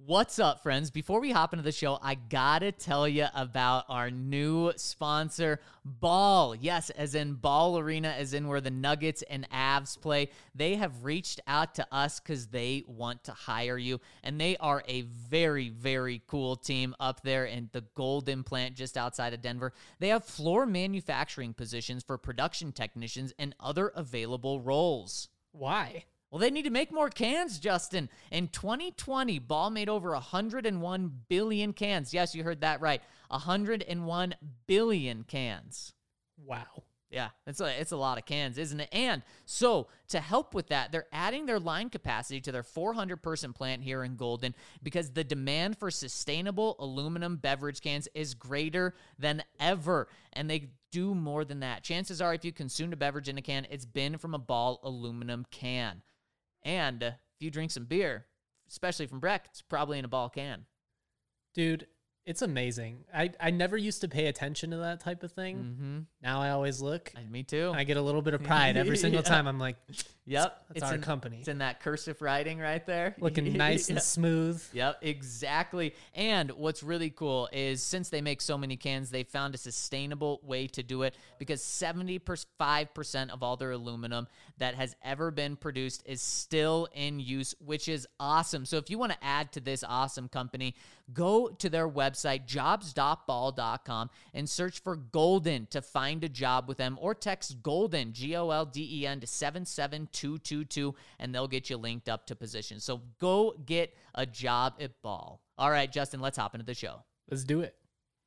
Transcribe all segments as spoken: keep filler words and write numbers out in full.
What's up, friends? Before we hop into the show, I gotta tell you about our new sponsor, Ball. Yes, as in Ball Arena, as in where the Nuggets and Avs play. They have reached out to us because they want to hire you, and they are a very, very cool team up there in the Golden plant just outside of Denver. They have floor manufacturing positions for production technicians and other available roles. Why? Well, they need to make more cans, Justin. In twenty twenty, Ball made over one hundred one billion cans. Yes, you heard that right. one hundred one billion cans. Wow. Yeah, it's a, it's a lot of cans, isn't it? And so to help with that, they're adding their line capacity to their four hundred person plant here in Golden because the demand for sustainable aluminum beverage cans is greater than ever. And they do more than that. Chances are if you consumed a beverage in a can, it's been from a Ball aluminum can. And uh, if you drink some beer, especially from Breck, it's probably in a Ball can. Dude, it's amazing. I, I never used to pay attention to that type of thing. Mm-hmm. Now I always look. And me too. I get a little bit of pride every single Yeah. time. I'm like, Yep. that's it's our in, company. It's in that cursive writing right there. Looking nice Yeah. and smooth. Yep, exactly. And what's really cool is since they make so many cans, they found a sustainable way to do it because seventy-five percent of all their aluminum that has ever been produced is still in use, which is awesome. So if you want to add to this awesome company, go to their website, jobs dot ball dot com, and search for Golden to find a job with them, or text Golden, G O L D E N, to seven seven two two two, and they'll get you linked up to positions. So go get a job at Ball. All right, Justin, let's hop into the show. Let's do it.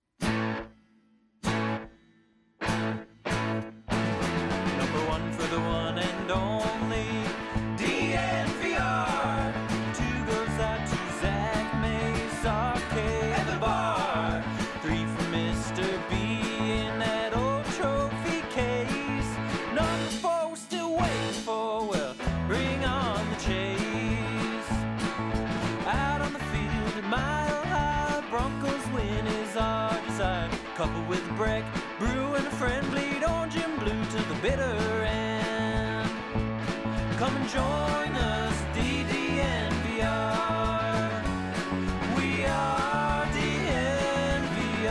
Number one for the one and only D N V R. Two goes out to Zach Mace, Arcade, and the bar. Three for Mister B in that old trophy case. Number four we're still waiting for, well, bring on the chase. Out on the field at Mile High, Broncos win is our desire. Couple with Breck, Brew and a friend, bleed orange and blue to the bitter end. Come and join us, D D N V R. We are D N V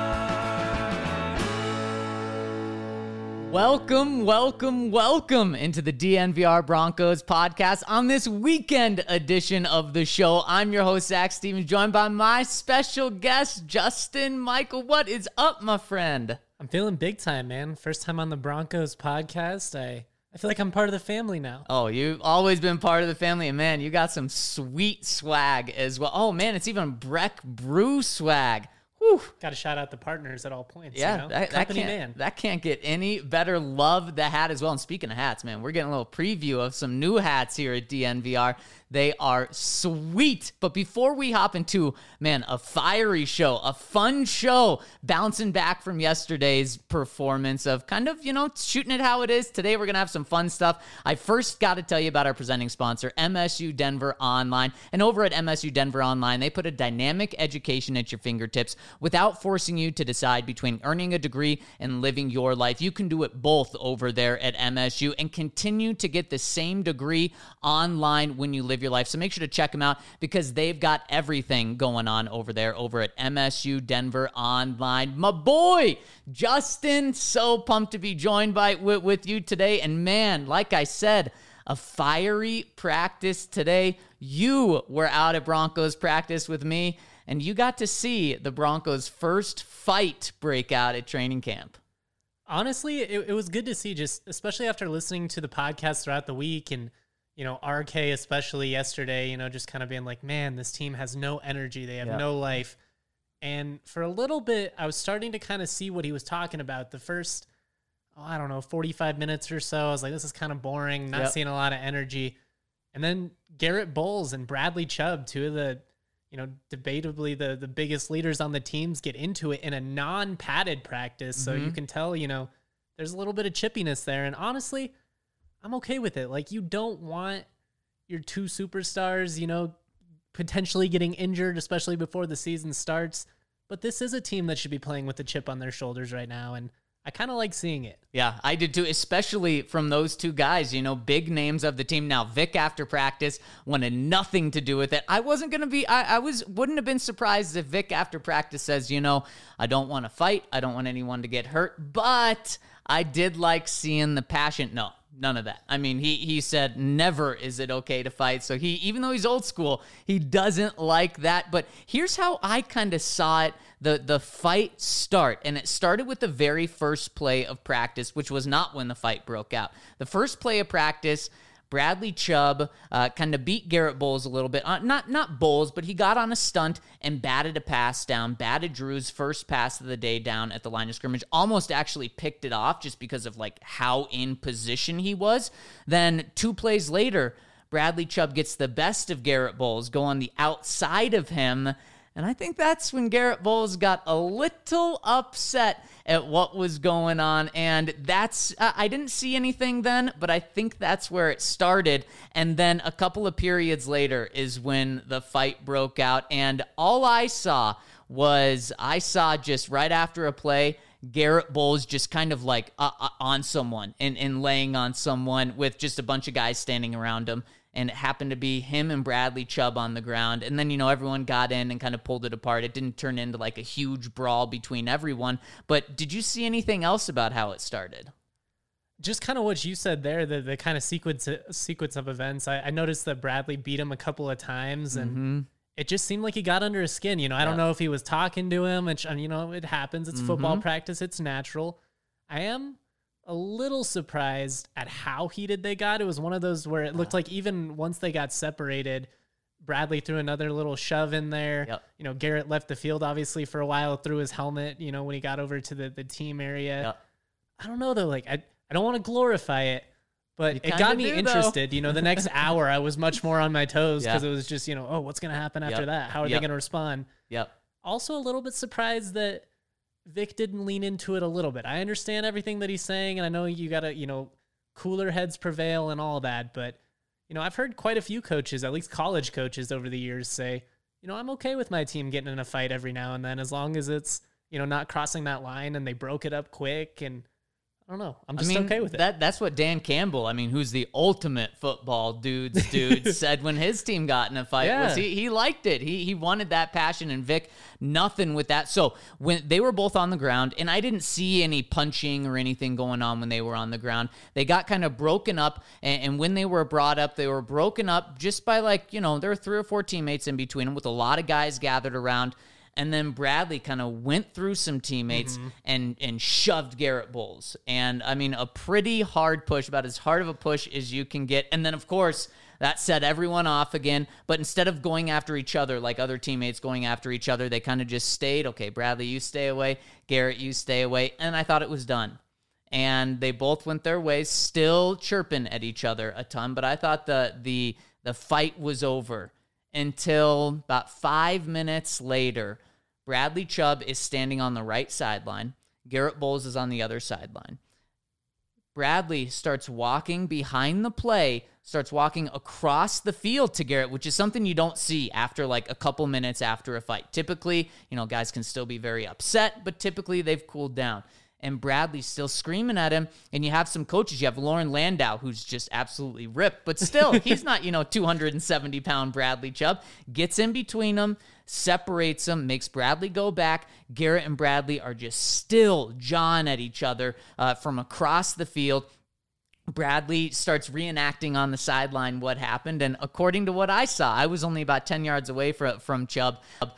R. Welcome, welcome, welcome into the D N V R Broncos podcast on this weekend edition of the show. I'm your host, Zach Stevens, joined by my special guest, Justin Michael. What is up, my friend? I'm feeling big time, man. First time on the Broncos podcast. I, I feel like I'm part of the family now. Oh, you've always been part of the family, and man, you got some sweet swag as well. Oh, man, it's even Breck Brew swag. Whew. Got to shout out the partners at all points. Yeah, you know? that, that, Company can't, man. that can't get any better. Love the hat as well. And speaking of hats, man, we're getting a little preview of some new hats here at D N V R. They are sweet. But before we hop into, man, a fiery show, a fun show, bouncing back from yesterday's performance of kind of, you know, shooting it how it is. Today, we're going to have some fun stuff. I first got to tell you about our presenting sponsor, M S U Denver Online. And over at M S U Denver Online, they put a dynamic education at your fingertips without forcing you to decide between earning a degree and living your life. You can do it both over there at M S U and continue to get the same degree online when you live your life. So make sure to check them out because they've got everything going on over there over at M S U Denver Online. My boy, Justin, so pumped to be joined by with, with you today. And man, like I said, a fiery practice today. You were out at Broncos practice with me, and you got to see the Broncos' first fight break out at training camp. Honestly, it, it was good to see, just especially after listening to the podcast throughout the week and, you know, R K especially yesterday, you know, just kind of being like, man, this team has no energy. They have Yeah. no life. And for a little bit, I was starting to kind of see what he was talking about. The first, oh, I don't know, forty-five minutes or so, I was like, this is kind of boring, not Yep. seeing a lot of energy. And then Garrett Bowles and Bradley Chubb, two of the, you know, debatably the, the biggest leaders on the teams, get into it in a non-padded practice. So Mhm. you can tell, you know, there's a little bit of chippiness there. And honestly, I'm okay with it. Like, you don't want your two superstars, you know, potentially getting injured, especially before the season starts. But this is a team that should be playing with a chip on their shoulders right now. And I kind of like seeing it. Yeah, I did too, especially from those two guys, you know, big names of the team. Now, Vic after practice wanted nothing to do with it. I wasn't going to be, I, I was, wouldn't have been surprised if Vic after practice says, you know, I don't want to fight. I don't want anyone to get hurt, but I did like seeing the passion. No, none of that. I mean, he he said never is it okay to fight. So he, even though he's old school, he doesn't like that. But here's how I kind of saw it. The the fight start, and it started with the very first play of practice, which was not when the fight broke out. The first play of practice, Bradley Chubb uh, kind of beat Garrett Bowles a little bit. Uh, not not Bowles, but he got on a stunt and batted a pass down, batted Drew's first pass of the day down at the line of scrimmage, almost actually picked it off just because of like how in position he was. Then two plays later, Bradley Chubb gets the best of Garrett Bowles, go on the outside of him. And I think that's when Garrett Bowles got a little upset at what was going on. And that's, uh, I didn't see anything then, but I think that's where it started. And then a couple of periods later is when the fight broke out. And all I saw was, I saw just right after a play, Garrett Bowles just kind of like uh, uh, on someone and, and laying on someone with just a bunch of guys standing around him. And it happened to be him and Bradley Chubb on the ground. And then, you know, everyone got in and kind of pulled it apart. It didn't turn into like a huge brawl between everyone. But did you see anything else about how it started? Just kind of what you said there, the, the kind of sequence sequence of events. I, I noticed that Bradley beat him a couple of times, and mm-hmm. it just seemed like he got under his skin. You know, I yeah. don't know if he was talking to him, and, you know, it happens. It's mm-hmm. football practice. It's natural. I am a little surprised at how heated they got. It was one of those where it looked like even once they got separated, Bradley threw another little shove in there. Yep. You know, Garrett left the field obviously for a while, threw his helmet, you know, when he got over to the, the team area. Yep. I don't know though. Like, I, I don't want to glorify it, but it got me do, interested. You know, the next hour I was much more on my toes because yeah. it was just, you know, oh, what's going to happen after yep. that? How are yep. they going to respond? Yep. Also a little bit surprised that Vic didn't lean into it a little bit. I understand everything that he's saying, and I know you got to, you know, cooler heads prevail and all that, but, you know, I've heard quite a few coaches, at least college coaches over the years, say, you know, I'm okay with my team getting in a fight every now and then as long as it's, you know, not crossing that line and they broke it up quick. And I don't know. I'm just I mean, okay with it. That, that's what Dan Campbell, I mean, who's the ultimate football dudes dude, said when his team got in a fight. Yeah. Was he, he liked it. He he wanted that passion, and Vic, nothing with that. So when they were both on the ground, and I didn't see any punching or anything going on when they were on the ground, they got kind of broken up, and, and when they were brought up, they were broken up just by like, you know, there were three or four teammates in between them with a lot of guys gathered around. And then Bradley kind of went through some teammates mm-hmm. and and shoved Garrett Bowles. And, I mean, a pretty hard push, about as hard of a push as you can get. And then, of course, that set everyone off again. But instead of going after each other like other teammates going after each other, they kind of just stayed. Okay, Bradley, you stay away. Garrett, you stay away. And I thought it was done. And they both went their ways, still chirping at each other a ton. But I thought the the the fight was over until about five minutes later. Bradley Chubb is standing on the right sideline. Garrett Bowles is on the other sideline. Bradley starts walking behind the play, starts walking across the field to Garrett, which is something you don't see after like a couple minutes after a fight. Typically, you know, guys can still be very upset, but typically they've cooled down. And Bradley's still screaming at him. And you have some coaches. You have Lauren Landau, who's just absolutely ripped, but still, he's not, you know, two hundred seventy pound Bradley Chubb. Gets in between them, separates them, makes Bradley go back. Garrett and Bradley are just still jawing at each other uh, from across the field. Bradley starts reenacting on the sideline what happened. And according to what I saw, I was only about ten yards away from, from Chubb.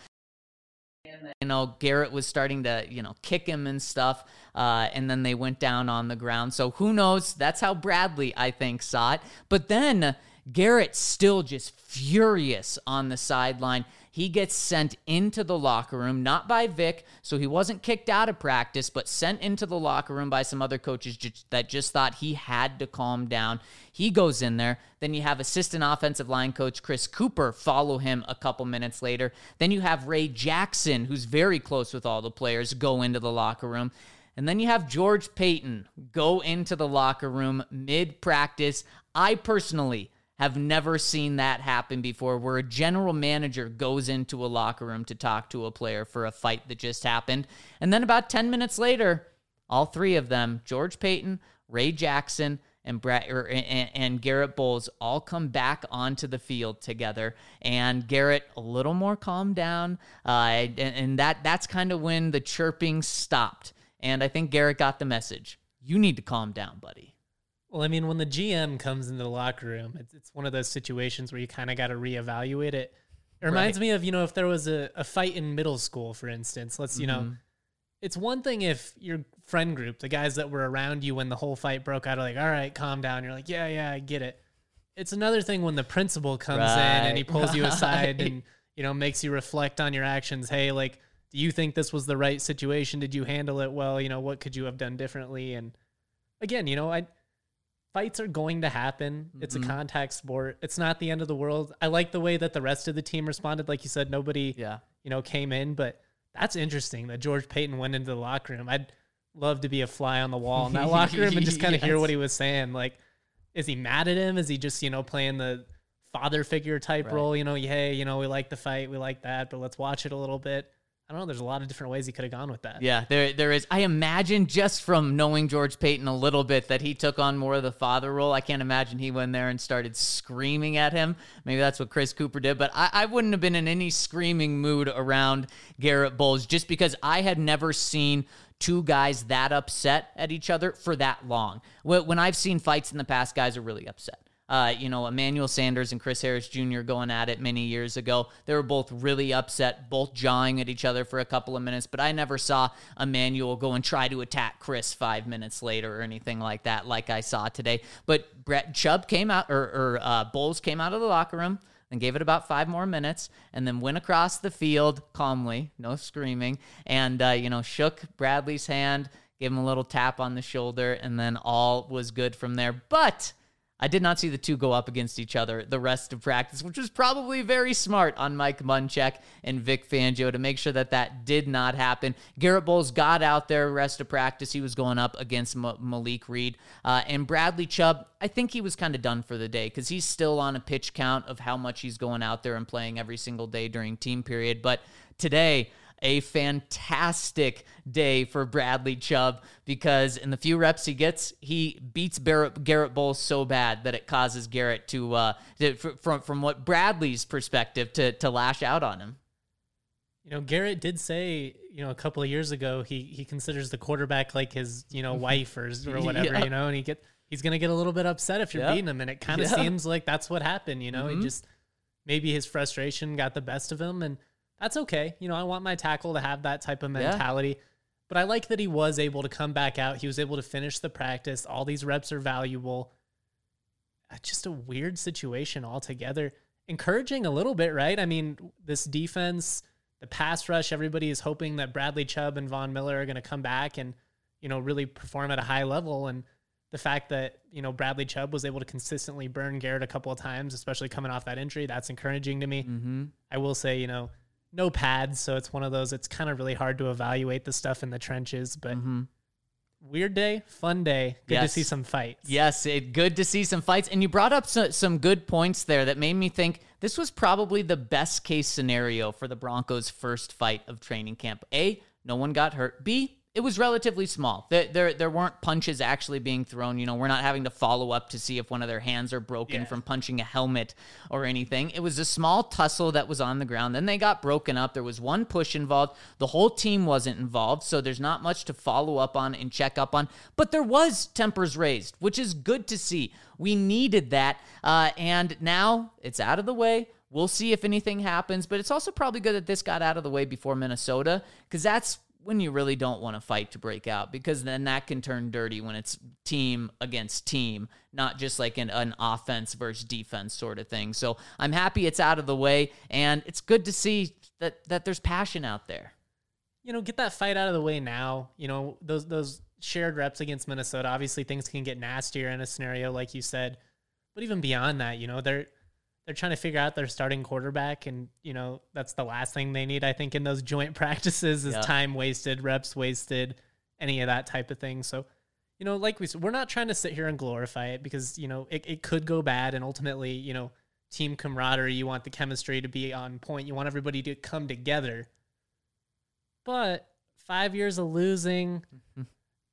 You know, Garrett was starting to, you know, kick him and stuff, uh, and then they went down on the ground. So who knows? That's how Bradley, I think, saw it. But then Garrett's still just furious on the sideline. He gets sent into the locker room, not by Vic, so he wasn't kicked out of practice, but sent into the locker room by some other coaches just, that just thought he had to calm down. He goes in there. Then you have assistant offensive line coach Chris Cooper follow him a couple minutes later. Then you have Ray Jackson, who's very close with all the players, go into the locker room. And then you have George Payton go into the locker room mid-practice. I personally have never seen that happen before, where a general manager goes into a locker room to talk to a player for a fight that just happened. And then about ten minutes later, All three of them, George Payton, Ray Jackson, and Brad or, and, and Garrett Bowles, all come back onto the field together. And Garrett a little more calmed down, uh, and, and that that's kind of when the chirping stopped. And I think Garrett got the message. You need to calm down, buddy. Well, I mean, when the G M comes into the locker room, it's, it's one of those situations where you kind of got to reevaluate it. It reminds right. me of, you know, if there was a, a fight in middle school, for instance, let's, you mm-hmm. know, it's one thing if your friend group, the guys that were around you when the whole fight broke out, are like, all right, calm down. You're like, yeah, yeah, I get it. It's another thing when the principal comes right. in and he pulls right. you aside and, you know, makes you reflect on your actions. Hey, like, do you think this was the right situation? Did you handle it well? You know, what could you have done differently? And again, you know, I fights are going to happen. Mm-hmm. It's a contact sport. It's not the end of the world. I like the way that the rest of the team responded. Like you said, nobody, yeah. you know, came in, but that's interesting that George Payton went into the locker room. I'd love to be a fly on the wall in that locker room and just kind of yes. hear what he was saying. Like, is he mad at him? Is he just, you know, playing the father figure type right. role? You know, hey, you know, we like the fight. We like that, but let's watch it a little bit. I don't know. There's a lot of different ways he could have gone with that. Yeah, there there is. I imagine just from knowing George Payton a little bit that he took on more of the father role. I can't imagine he went there and started screaming at him. Maybe that's what Chris Cooper did, but I, I wouldn't have been in any screaming mood around Garrett Bowles just because I had never seen two guys that upset at each other for that long. When I've seen fights in the past, guys are really upset. Uh, you know, Emmanuel Sanders and Chris Harris Junior going at it many years ago. They were both really upset, both jawing at each other for a couple of minutes, but I never saw Emmanuel go and try to attack Chris five minutes later or anything like that, like I saw today. But Brett Chubb came out, or, or uh, Bowles came out of the locker room and gave it about five more minutes and then went across the field calmly, no screaming, and, uh, you know, shook Bradley's hand, gave him a little tap on the shoulder, and then all was good from there. But I did not see the two go up against each other the rest of practice, which was probably very smart on Mike Munchak and Vic Fangio to make sure that that did not happen. Garrett Bowles got out there rest of practice. He was going up against M- Malik Reed. Uh, and Bradley Chubb, I think he was kind of done for the day because he's still on a pitch count of how much he's going out there and playing every single day during team period. But today, a fantastic day for Bradley Chubb because in the few reps he gets, he beats Barrett, Garrett Bowles so bad that it causes Garrett to, uh, to from from what Bradley's perspective, to to lash out on him. You know, Garrett did say, you know, a couple of years ago, he he considers the quarterback like his, you know, wife or or whatever, yeah. you know, and he get he's gonna get a little bit upset if you're yep. beating him, and it kind of yep. seems like that's what happened. You know, mm-hmm. he just maybe his frustration got the best of him, and that's okay. You know, I want my tackle to have that type of mentality. Yeah. But I like that he was able to come back out. He was able to finish the practice. All these reps are valuable. Just a weird situation altogether. Encouraging a little bit, right? I mean, this defense, the pass rush, everybody is hoping that Bradley Chubb and Von Miller are going to come back and, you know, really perform at a high level. And the fact that, you know, Bradley Chubb was able to consistently burn Garrett a couple of times, especially coming off that injury, that's encouraging to me. Mm-hmm. I will say, you know, no pads, so it's one of those, it's kind of really hard to evaluate the stuff in the trenches, but mm-hmm. weird day, fun day, good yes. to see some fights. Yes, it, good to see some fights, and you brought up so, some good points there that made me think this was probably the best case scenario for the Broncos' first fight of training camp. A, no one got hurt. B, it was relatively small. There, there, there weren't punches actually being thrown. You know, we're not having to follow up to see if one of their hands are broken yeah. from punching a helmet or anything. It was a small tussle that was on the ground. Then they got broken up. There was one push involved. The whole team wasn't involved, so there's not much to follow up on and check up on. But there was tempers raised, which is good to see. We needed that, uh, and now it's out of the way. We'll see if anything happens, but it's also probably good that this got out of the way before Minnesota, because that's when you really don't want to fight to break out, because then that can turn dirty when it's team against team, not just like an, an offense versus defense sort of thing. So I'm happy it's out of the way, and it's good to see that that there's passion out there. You know, get that fight out of the way now. You know, those those shared reps against Minnesota, obviously things can get nastier in a scenario like you said, but even beyond that, you know, they're They're trying to figure out their starting quarterback, and, you know, that's the last thing they need, I think, in those joint practices is yeah. time wasted, reps wasted, any of that type of thing. So, you know, like we said, we're not trying to sit here and glorify it because, you know, it, it could go bad, and ultimately, you know, team camaraderie, you want the chemistry to be on point. You want everybody to come together. But five years of losing,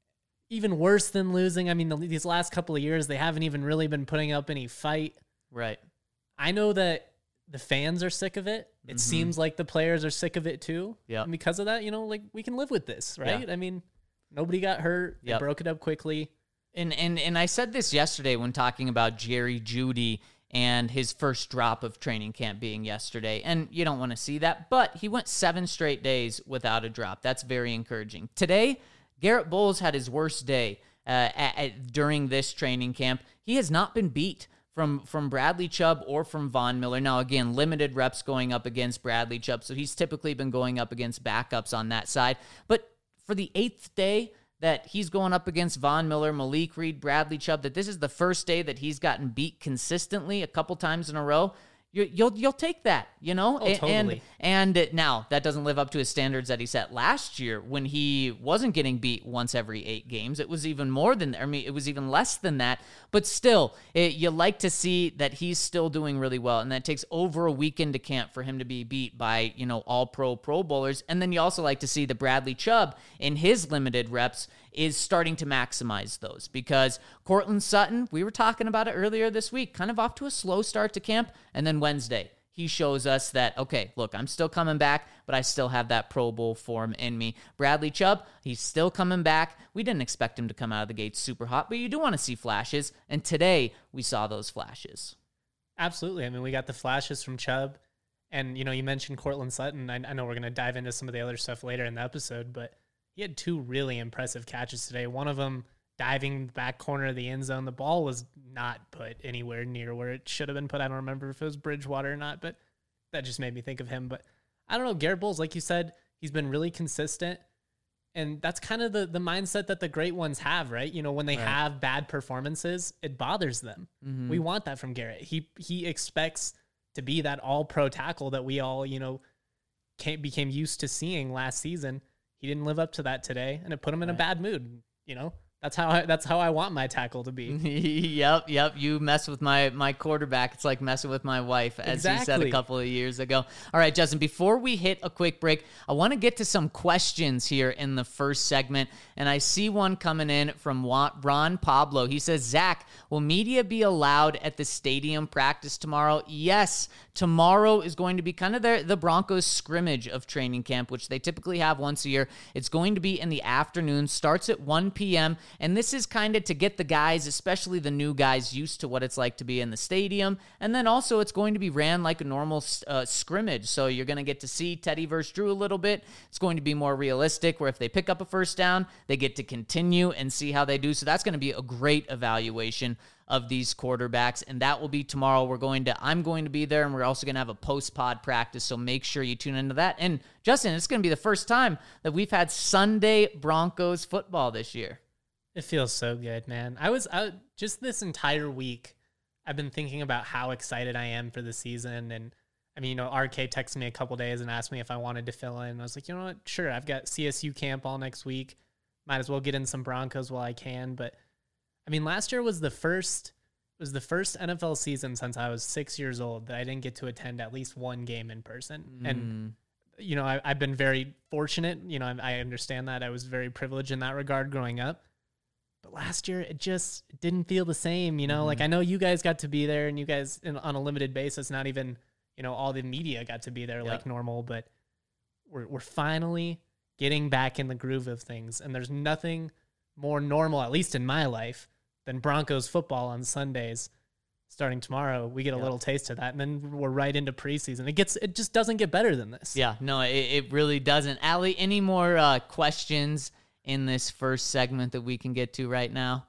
even worse than losing. I mean, the, these last couple of years, they haven't even really been putting up any fight. Right. I know that the fans are sick of it. It mm-hmm. seems like the players are sick of it too. Yeah. And because of that, you know, like we can live with this, right? Yeah. I mean, nobody got hurt. They yep. broke it up quickly. And and and I said this yesterday when talking about Jerry Jeudy and his first drop of training camp being yesterday. And you don't want to see that, but he went seven straight days without a drop. That's very encouraging. Today, Garrett Bowles had his worst day uh, at, at, during this training camp. He has not been beat from from Bradley Chubb or from Von Miller. Now, again, limited reps going up against Bradley Chubb, so he's typically been going up against backups on that side. But for the eighth day that he's going up against Von Miller, Malik Reed, Bradley Chubb, that this is the first day that he's gotten beat consistently a couple times in a row, you, you'll you'll take that, you know? Oh, totally. And, and now, that doesn't live up to his standards that he set last year when he wasn't getting beat once every eight games. It was even more than, I mean, it was even less than that. But still, it, you like to see that he's still doing really well, and that takes over a week into camp for him to be beat by, you know, all-pro Pro Bowlers. And then you also like to see that Bradley Chubb, in his limited reps, is starting to maximize those, because Courtland Sutton, we were talking about it earlier this week, kind of off to a slow start to camp, and then Wednesday, he shows us that, okay, look, I'm still coming back, but I still have that Pro Bowl form in me. Bradley Chubb, he's still coming back. We didn't expect him to come out of the gate super hot, but you do want to see flashes, and today we saw those flashes. Absolutely. I mean, we got the flashes from Chubb, and, you know, you mentioned Courtland Sutton. I, I know we're going to dive into some of the other stuff later in the episode, but he had two really impressive catches today. One of them diving back corner of the end zone. The ball was not put anywhere near where it should have been put. I don't remember if it was Bridgewater or not, but that just made me think of him. But I don't know, Garrett Bowles, like you said, he's been really consistent. And that's kind of the, the mindset that the great ones have, right? You know, when they right. have bad performances, it bothers them. Mm-hmm. We want that from Garrett. He he expects to be that all-pro tackle that we all, you know, came, became used to seeing last season. He didn't live up to that today, and it put him in right. a bad mood. You know, that's how I, that's how I want my tackle to be. yep, yep. You mess with my my quarterback, it's like messing with my wife, as exactly. you said a couple of years ago. All right, Justin, before we hit a quick break, I want to get to some questions here in the first segment, and I see one coming in from Ron Pablo. He says, Zach, will media be allowed at the stadium practice tomorrow? Yes. Tomorrow is going to be kind of the, the Broncos scrimmage of training camp, which they typically have once a year. It's going to be in the afternoon, starts at one p.m., and this is kind of to get the guys, especially the new guys, used to what it's like to be in the stadium. And then also it's going to be ran like a normal uh, scrimmage, so you're going to get to see Teddy versus Drew a little bit. It's going to be more realistic, where if they pick up a first down, they get to continue and see how they do. So that's going to be a great evaluation of these quarterbacks, and that will be tomorrow. We're going to, I'm going to be there, and we're also going to have a post-pod practice, so make sure you tune into that. And Justin, it's going to be the first time that we've had Sunday Broncos football this year. It feels so good, man. I was I, just this entire week, I've been thinking about how excited I am for the season. And I mean, you know, R K texted me a couple days and asked me if I wanted to fill in. I was like, you know what? Sure. I've got C S U camp all next week. Might as well get in some Broncos while I can. But I mean, last year was the first was the first N F L season since I was six years old that I didn't get to attend at least one game in person. Mm. And, you know, I, I've been very fortunate. You know, I, I understand that. I was very privileged in that regard growing up. But last year, it just didn't feel the same. You know, mm. like I know you guys got to be there, and you guys in, on a limited basis, not even, you know, all the media got to be there yep. like normal. But we're we're finally getting back in the groove of things. And there's nothing more normal, at least in my life, than Broncos football on Sundays. Starting tomorrow, we get a yep. little taste of that, and then we're right into preseason. It gets, it just doesn't get better than this. Yeah, no, it, it really doesn't. Allie, any more uh, questions in this first segment that we can get to right now?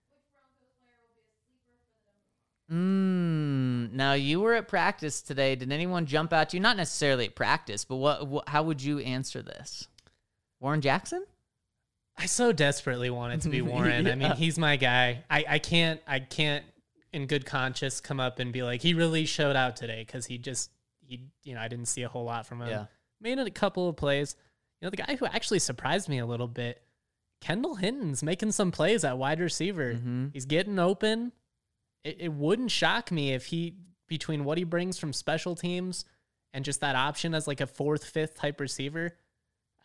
Mm, now, you were at practice today. Did anyone jump out to you? Not necessarily at practice, but what, what? How would you answer this? Warren Jackson? I so desperately want it to be Warren. yeah. I mean, he's my guy. I, I can't, I can't in good conscience come up and be like, he really showed out today, because he just, he, you know, I didn't see a whole lot from him. Yeah. Made a couple of plays. You know, the guy who actually surprised me a little bit, Kendall Hinton's making some plays at wide receiver. Mm-hmm. He's getting open. It, it wouldn't shock me if he, between what he brings from special teams and just that option as like a fourth, fifth type receiver,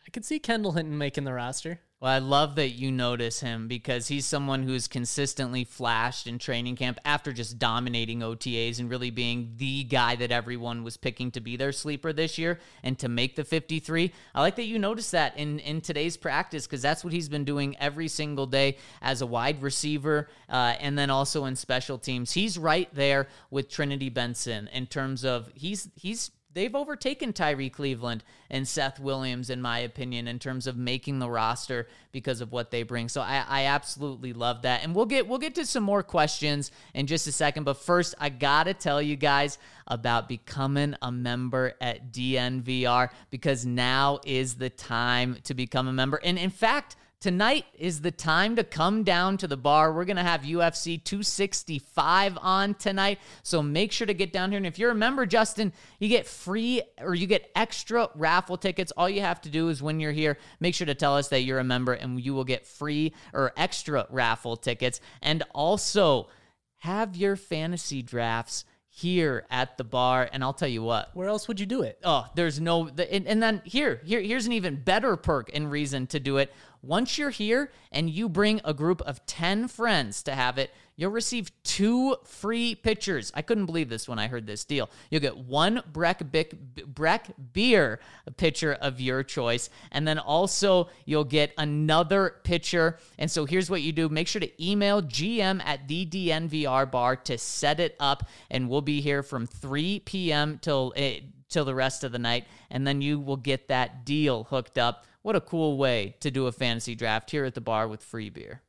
I could see Kendall Hinton making the roster. Well, I love that you notice him because he's someone who's consistently flashed in training camp after just dominating O T As and really being the guy that everyone was picking to be their sleeper this year and to make the fifty-three. I like that you noticed that in, in today's practice because that's what he's been doing every single day as a wide receiver uh, and then also in special teams. He's right there with Trinity Benson in terms of he's he's they've overtaken Tyree Cleveland and Seth Williams, in my opinion, in terms of making the roster because of what they bring. So I, I absolutely love that. And we'll get we'll get to some more questions in just a second. But first, I gotta tell you guys about becoming a member at D N V R because now is the time to become a member. And in fact, tonight is the time to come down to the bar. We're going to have U F C two sixty-five on tonight, so make sure to get down here. And if you're a member, Justin, you get free or you get extra raffle tickets. All you have to do is when you're here, make sure to tell us that you're a member and you will get free or extra raffle tickets. And also have your fantasy drafts here at the bar. And I'll tell you what. Where else would you do it? Oh, there's no, the, and, and then here, here, here's an even better perk and reason to do it. Once you're here and you bring a group of ten friends to have it, you'll receive two free pitchers. I couldn't believe this when I heard this deal. You'll get one Breck, Bic, Breck beer pitcher of your choice, and then also you'll get another pitcher. And so here's what you do. Make sure to email G M at the D N V R bar to set it up, and we'll be here from three p.m. till uh, till the rest of the night, and then you will get that deal hooked up. What a cool way to do a fantasy draft here at the bar with free beer.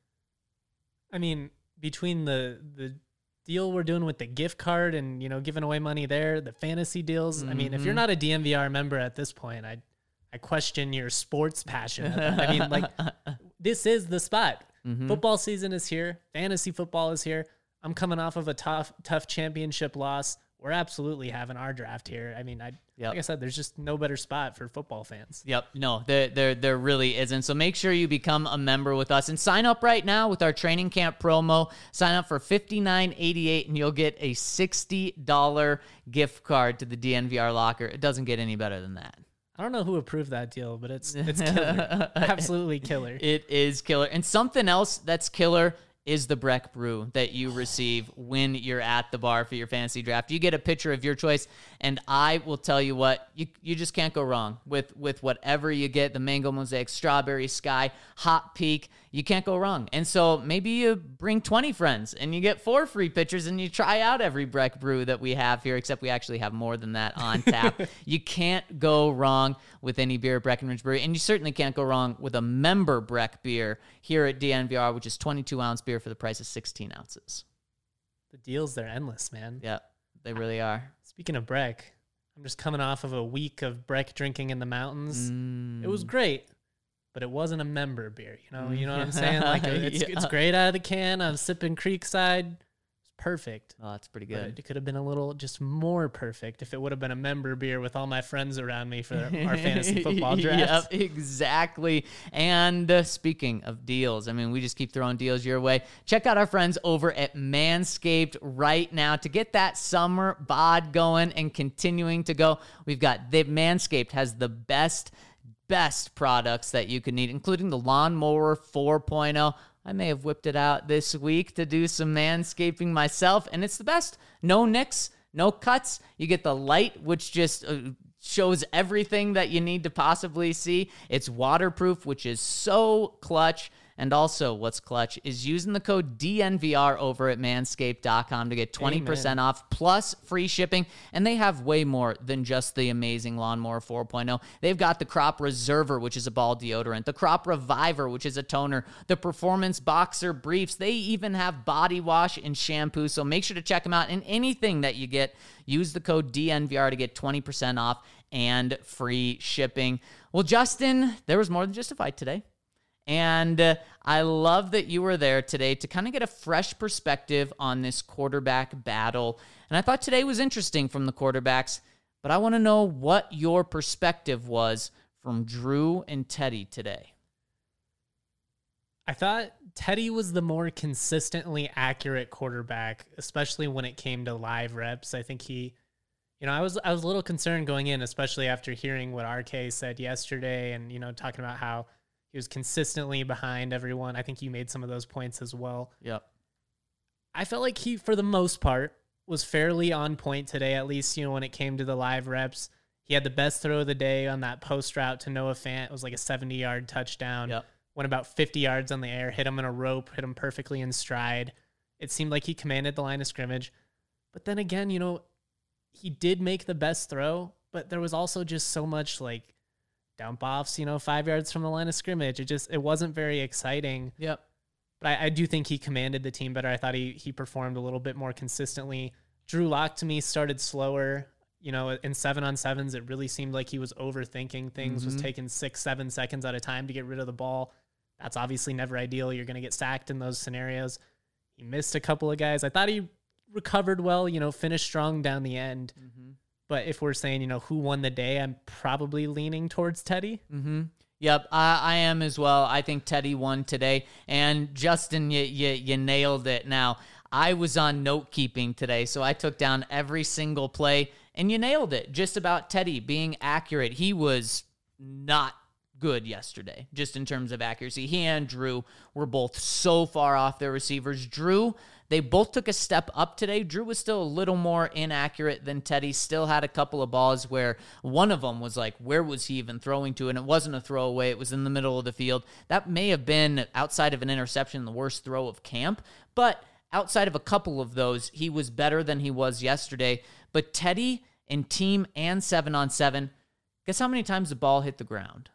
I mean, between the the deal we're doing with the gift card and, you know, giving away money there, the fantasy deals. Mm-hmm. I mean, if you're not a D N V R member at this point, I I question your sports passion. I mean, like, this is the spot. Mm-hmm. Football season is here. Fantasy football is here. I'm coming off of a tough, tough championship loss. We're absolutely having our draft here. I mean, I yep. like I said, there's just no better spot for football fans. Yep. No, there, there, there really isn't. So make sure you become a member with us and sign up right now with our training camp promo. Sign up for fifty-nine eighty-eight and you'll get a sixty dollars gift card to the D N V R locker. It doesn't get any better than that. I don't know who approved that deal, but it's it's killer. Absolutely killer. It is killer. And something else that's killer is the Breck Brew that you receive when you're at the bar for your fantasy draft. You get a pitcher of your choice, and I will tell you what, you you just can't go wrong with, with whatever you get, the Mango Mosaic, Strawberry Sky, Hot Peak. You can't go wrong. And so maybe you bring twenty friends, and you get four free pitchers, and you try out every Breck Brew that we have here, except we actually have more than that on tap. You can't go wrong with any beer at Breckenridge Brewery, and you certainly can't go wrong with a member Breck beer here at D N V R, which is twenty-two ounce beer for the price of sixteen ounces. The deals, they're endless, man. Yeah, they really are. Speaking of Breck, I'm just coming off of a week of Breck drinking in the mountains. Mm. It was great, but it wasn't a member beer. You know, you know what I'm saying? Like it's yeah. it's great out of the can. I'm sipping Creekside. It's perfect. Oh, that's pretty good. But it could have been a little just more perfect if it would have been a member beer with all my friends around me for our fantasy football draft. Yep, exactly. And uh, speaking of deals, I mean, we just keep throwing deals your way. Check out our friends over at Manscaped right now to get that summer bod going and continuing to go. We've got the Manscaped has the best best products that you could need, including the Lawnmower four point oh. I may have whipped it out this week to do some manscaping myself, and it's the best. No nicks, no cuts. You get the light, which just uh, shows everything that you need to possibly see. It's waterproof, which is so clutch. And also, what's clutch is using the code D N V R over at manscaped dot com to get twenty percent Amen. off plus free shipping. And they have way more than just the amazing Lawnmower four point oh. They've got the Crop Reserver, which is a ball deodorant, the Crop Reviver, which is a toner, the Performance Boxer Briefs. They even have body wash and shampoo. So make sure to check them out. And anything that you get, use the code D N V R to get twenty percent off and free shipping. Well, Justin, there was more than just a fight today. And uh, I love that you were there today to kind of get a fresh perspective on this quarterback battle. And I thought today was interesting from the quarterbacks, but I want to know what your perspective was from Drew and Teddy today. I thought Teddy was the more consistently accurate quarterback, especially when it came to live reps. I think he You know, I was I was a little concerned going in, especially after hearing what R K said yesterday and, you know, talking about how he was consistently behind everyone. I think you made some of those points as well. Yep. I felt like he, for the most part, was fairly on point today, at least, you know, when it came to the live reps. He had the best throw of the day on that post route to Noah Fant. It was like a seventy-yard touchdown. Yep. Went about fifty yards on the air, hit him in a rope, hit him perfectly in stride. It seemed like he commanded the line of scrimmage. But then again, you know, he did make the best throw, but there was also just so much like dump offs, you know, five yards from the line of scrimmage. It just, it wasn't very exciting. Yep. But I, I do think he commanded the team better. I thought he he performed a little bit more consistently. Drew Lock to me started slower. You know, in seven on sevens, it really seemed like he was overthinking things, Mm-hmm. was taking six, seven seconds at a time to get rid of the ball. That's obviously never ideal. You're going to get sacked in those scenarios. He missed a couple of guys. I thought he recovered well, you know, finished strong down the end. Mm-hmm. But if we're saying, you know, who won the day, I'm probably leaning towards Teddy. Mm-hmm. Yep, I, I am as well. I think Teddy won today. And Justin, you, you, you nailed it. Now, I was on note keeping today, so I took down every single play, and you nailed it. Just about Teddy being accurate. He was not good yesterday, just in terms of accuracy. He and Drew were both so far off their receivers. Drew, they both took a step up today. Drew was still a little more inaccurate than Teddy, still had a couple of balls where one of them was like, where was he even throwing to? And it wasn't a throwaway. It was in the middle of the field. That may have been, outside of an interception, the worst throw of camp. But outside of a couple of those, he was better than he was yesterday. But Teddy in team and seven on seven, guess how many times the ball hit the ground?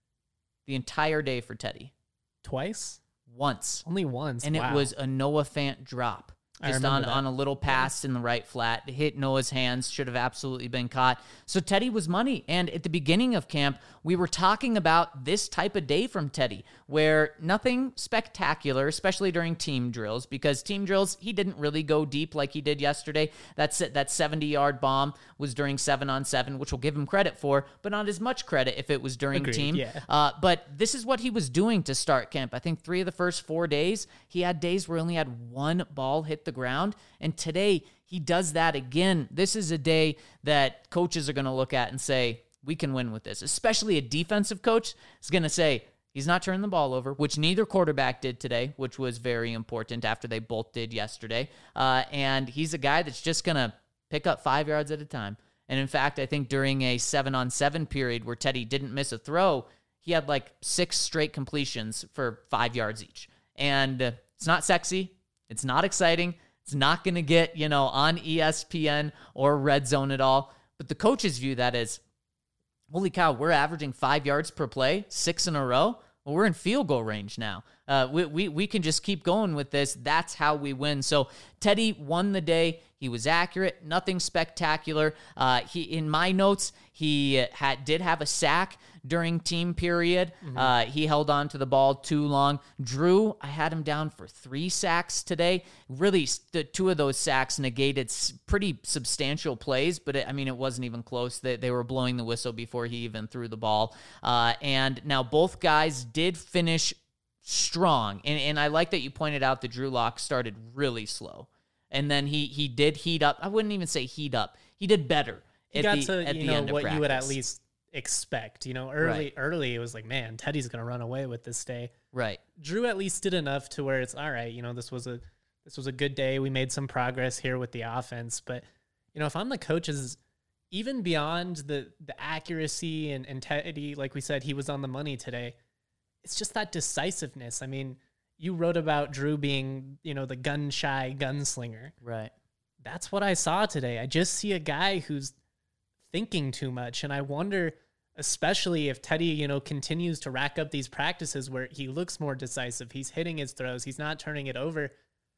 The entire day for Teddy. Twice? Once. Only once. And Wow. it was a Noah Fant drop. I Just remember on, that. on a little pass in the right flat. It hit Noah's hands. Should have absolutely been caught. So Teddy was money. And at the beginning of camp, we were talking about this type of day from Teddy, where nothing spectacular, especially during team drills, because team drills, he didn't really go deep like he did yesterday. That's that seventy-yard bomb was during seven on seven, which we'll give him credit for, but not as much credit if it was during Agreed, team. yeah. Uh, but this is what he was doing to start camp. I think three of the first four days, he had days where he only had one ball hit the ground. And today, he does that again. This is a day that coaches are going to look at and say, we can win with this. Especially a defensive coach is going to say, he's not turning the ball over, which neither quarterback did today, which was very important after they both did yesterday. Uh, and he's a guy that's just going to pick up five yards at a time. And in fact, I think during a seven on seven period where Teddy didn't miss a throw, he had like six straight completions for five yards each. And uh, it's not sexy. It's not exciting. It's not going to get, you know, on E S P N or Red Zone at all. But the coaches view that as, holy cow, we're averaging five yards per play, six in a row. Well, we're in field goal range now. Uh, we, we we can just keep going with this. That's how we win. So Teddy won the day. He was accurate, nothing spectacular. Uh, he in my notes, he had did have a sack during team period. Mm-hmm. Uh, he held on to the ball too long. Drew, I had him down for three sacks today. Really, the two of those sacks negated pretty substantial plays, but it, I mean, it wasn't even close. They, they were blowing the whistle before he even threw the ball. Uh, and now both guys did finish strong. And, and I like that you pointed out that Drew Lock started really slow. And then he he did heat up. I wouldn't even say heat up. He did better He at got the, to, at you the know, end of what practice. you would at least expect. You know, early, Right. early, it was like, man, Teddy's going to run away with this day. Right. Drew at least did enough to where it's all right. You know, this was a this was a good day. We made some progress here with the offense. But, you know, if I'm the coaches, even beyond the the accuracy and, and Teddy, like we said, he was on the money today. It's just that decisiveness. I mean, you wrote about Drew being, you know, the gun shy gunslinger. Right. That's what I saw today. I just see a guy who's thinking too much. And I wonder, especially if Teddy, you know, continues to rack up these practices where he looks more decisive, he's hitting his throws, he's not turning it over.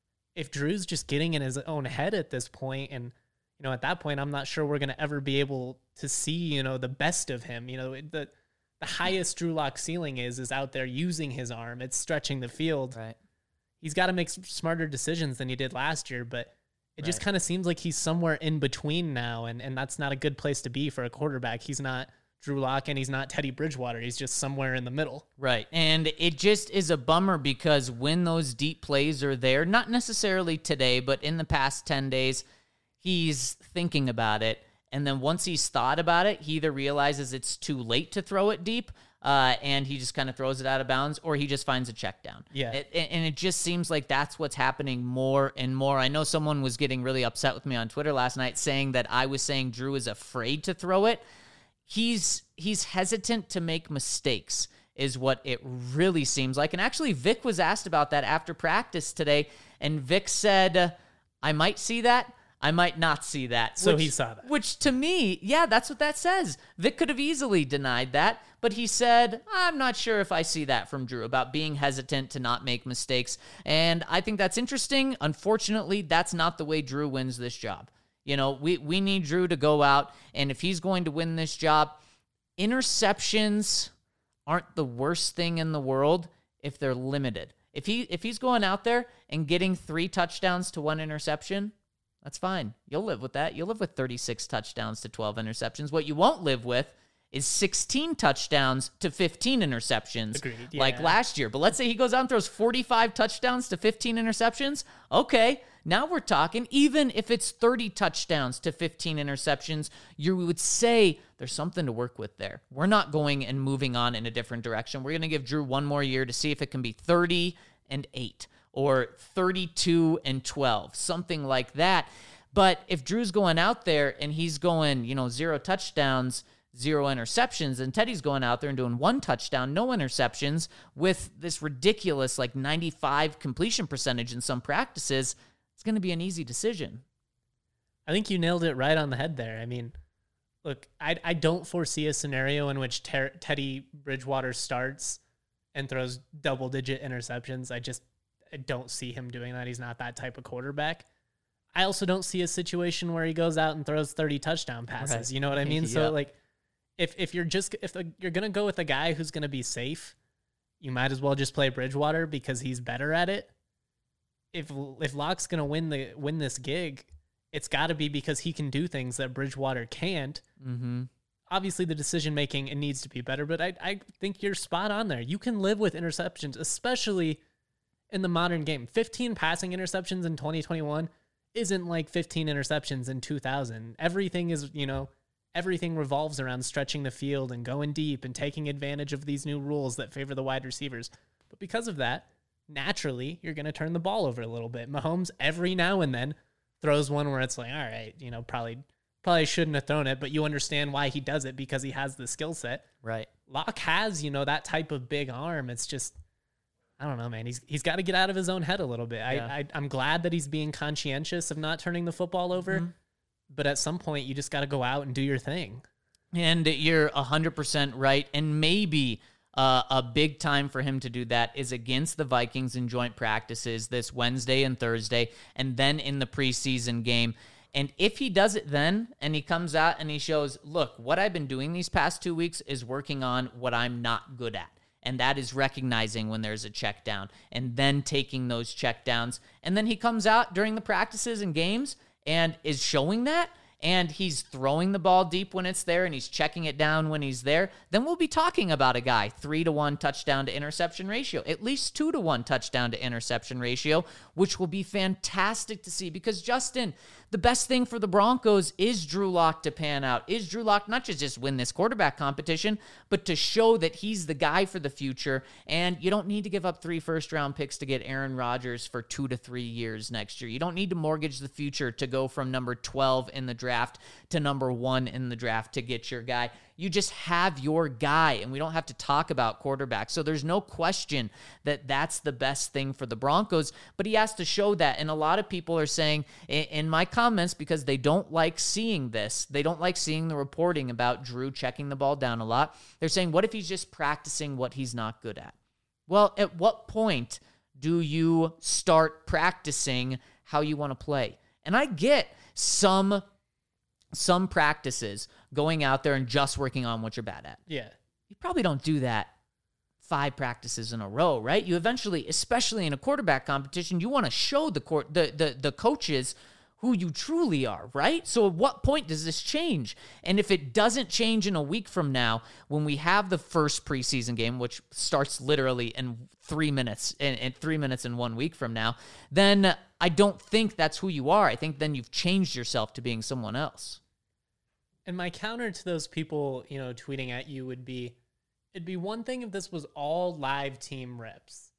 If Drew's just getting in his own head at this point, and, you know, at that point, I'm not sure we're going to ever be able to see, you know, the best of him. You know, the the highest Drew Lock ceiling is, is out there using his arm. It's stretching the field. Right. He's got to make s- smarter decisions than he did last year, but it just Right. kind of seems like he's somewhere in between now, and, and that's not a good place to be for a quarterback. He's not Drew Lock and he's not Teddy Bridgewater. He's just somewhere in the middle. Right. And it just is a bummer because when those deep plays are there, not necessarily today, but in the past ten days, he's thinking about it. And then once he's thought about it, he either realizes it's too late to throw it deep, uh, and he just kind of throws it out of bounds, or he just finds a check down. Yeah. It, and it just seems like that's what's happening more and more. I know someone was getting really upset with me on Twitter last night saying that I was saying Drew is afraid to throw it. He's he's hesitant to make mistakes is what it really seems like. And actually, Vic was asked about that after practice today, and Vic said, I might see that. I might not see that. So which, he saw that. Which to me, yeah, that's what that says. Vic could have easily denied that, but he said, I'm not sure if I see that from Drew about being hesitant to not make mistakes. And I think that's interesting. Unfortunately, that's not the way Drew wins this job. You know, we, we need Drew to go out, and if he's going to win this job, interceptions aren't the worst thing in the world if they're limited. If he if he's going out there and getting three touchdowns to one interception, that's fine. You'll live with that. You'll live with thirty-six touchdowns to twelve interceptions. What you won't live with is sixteen touchdowns to fifteen interceptions. Agreed, like yeah. last year. But let's say he goes out and throws forty-five touchdowns to fifteen interceptions. Okay, now we're talking. Even if it's thirty touchdowns to fifteen interceptions, you would say there's something to work with there. We're not going and moving on in a different direction. We're going to give Drew one more year to see if it can be thirty and eight. Or thirty-two and twelve, something like that. But if Drew's going out there and he's going, you know, zero touchdowns, zero interceptions, and Teddy's going out there and doing one touchdown, no interceptions, with this ridiculous like ninety-five completion percentage in some practices, it's going to be an easy decision. I think you nailed it right on the head there. I mean, look, I I don't foresee a scenario in which Ter- Teddy Bridgewater starts and throws double-digit interceptions. I just I don't see him doing that. He's not that type of quarterback. I also don't see a situation where he goes out and throws thirty touchdown passes. Right. You know what I mean? Yeah. So like, if if you're just if the, you're gonna go with a guy who's gonna be safe, you might as well just play Bridgewater because he's better at it. If if Locke's gonna win the win this gig, it's got to be because he can do things that Bridgewater can't. Mm-hmm. Obviously, the decision making, it needs to be better, but I I think you're spot on there. You can live with interceptions, especially in the modern game. fifteen passing interceptions in twenty twenty-one isn't like fifteen interceptions in two thousand. Everything is, you know, everything revolves around stretching the field and going deep and taking advantage of these new rules that favor the wide receivers. But because of that, naturally, you're going to turn the ball over a little bit. Mahomes, every now and then, throws one where it's like, all right, you know, probably probably shouldn't have thrown it, but you understand why he does it because he has the skill set. Right. Locke has, you know, that type of big arm. It's just, I don't know, man. He's he's got to get out of his own head a little bit. Yeah. I, I I'm glad that he's being conscientious of not turning the football over, Mm-hmm. but at some point you just got to go out and do your thing. And you're one hundred percent right. And maybe uh, a big time for him to do that is against the Vikings in joint practices this Wednesday and Thursday, and then in the preseason game. And if he does it then, and he comes out and he shows, look, what I've been doing these past two weeks is working on what I'm not good at. And that is recognizing when there's a check down and then taking those check downs. And then he comes out during the practices and games and is showing that, and he's throwing the ball deep when it's there and he's checking it down when he's there, then we'll be talking about a guy three to one touchdown to interception ratio, at least two to one touchdown to interception ratio, which will be fantastic to see because, Justin, the best thing for the Broncos is Drew Lock to pan out, is Drew Lock not just just win this quarterback competition, but to show that he's the guy for the future. And you don't need to give up three first round picks to get Aaron Rodgers for two to three years next year. You don't need to mortgage the future to go from number twelve in the draft to number one in the draft to get your guy. You just have your guy, and we don't have to talk about quarterbacks. So there's no question that that's the best thing for the Broncos, but he has to show that. And a lot of people are saying in my comments, because they don't like seeing this, they don't like seeing the reporting about Drew checking the ball down a lot. They're saying, what if he's just practicing what he's not good at? Well, at what point do you start practicing how you want to play? And I get some some practices going out there and just working on what you're bad at. Yeah. You probably don't do that five practices in a row, right? You eventually, especially in a quarterback competition, you want to show the court, the, the, the coaches who you truly are, right? So at what point does this change? And if it doesn't change in a week from now, when we have the first preseason game, which starts literally in three minutes, in, in three minutes in one week from now, then I don't think that's who you are. I think then you've changed yourself to being someone else. And my counter to those people, you know, tweeting at you would be, it'd be one thing if this was all live team reps.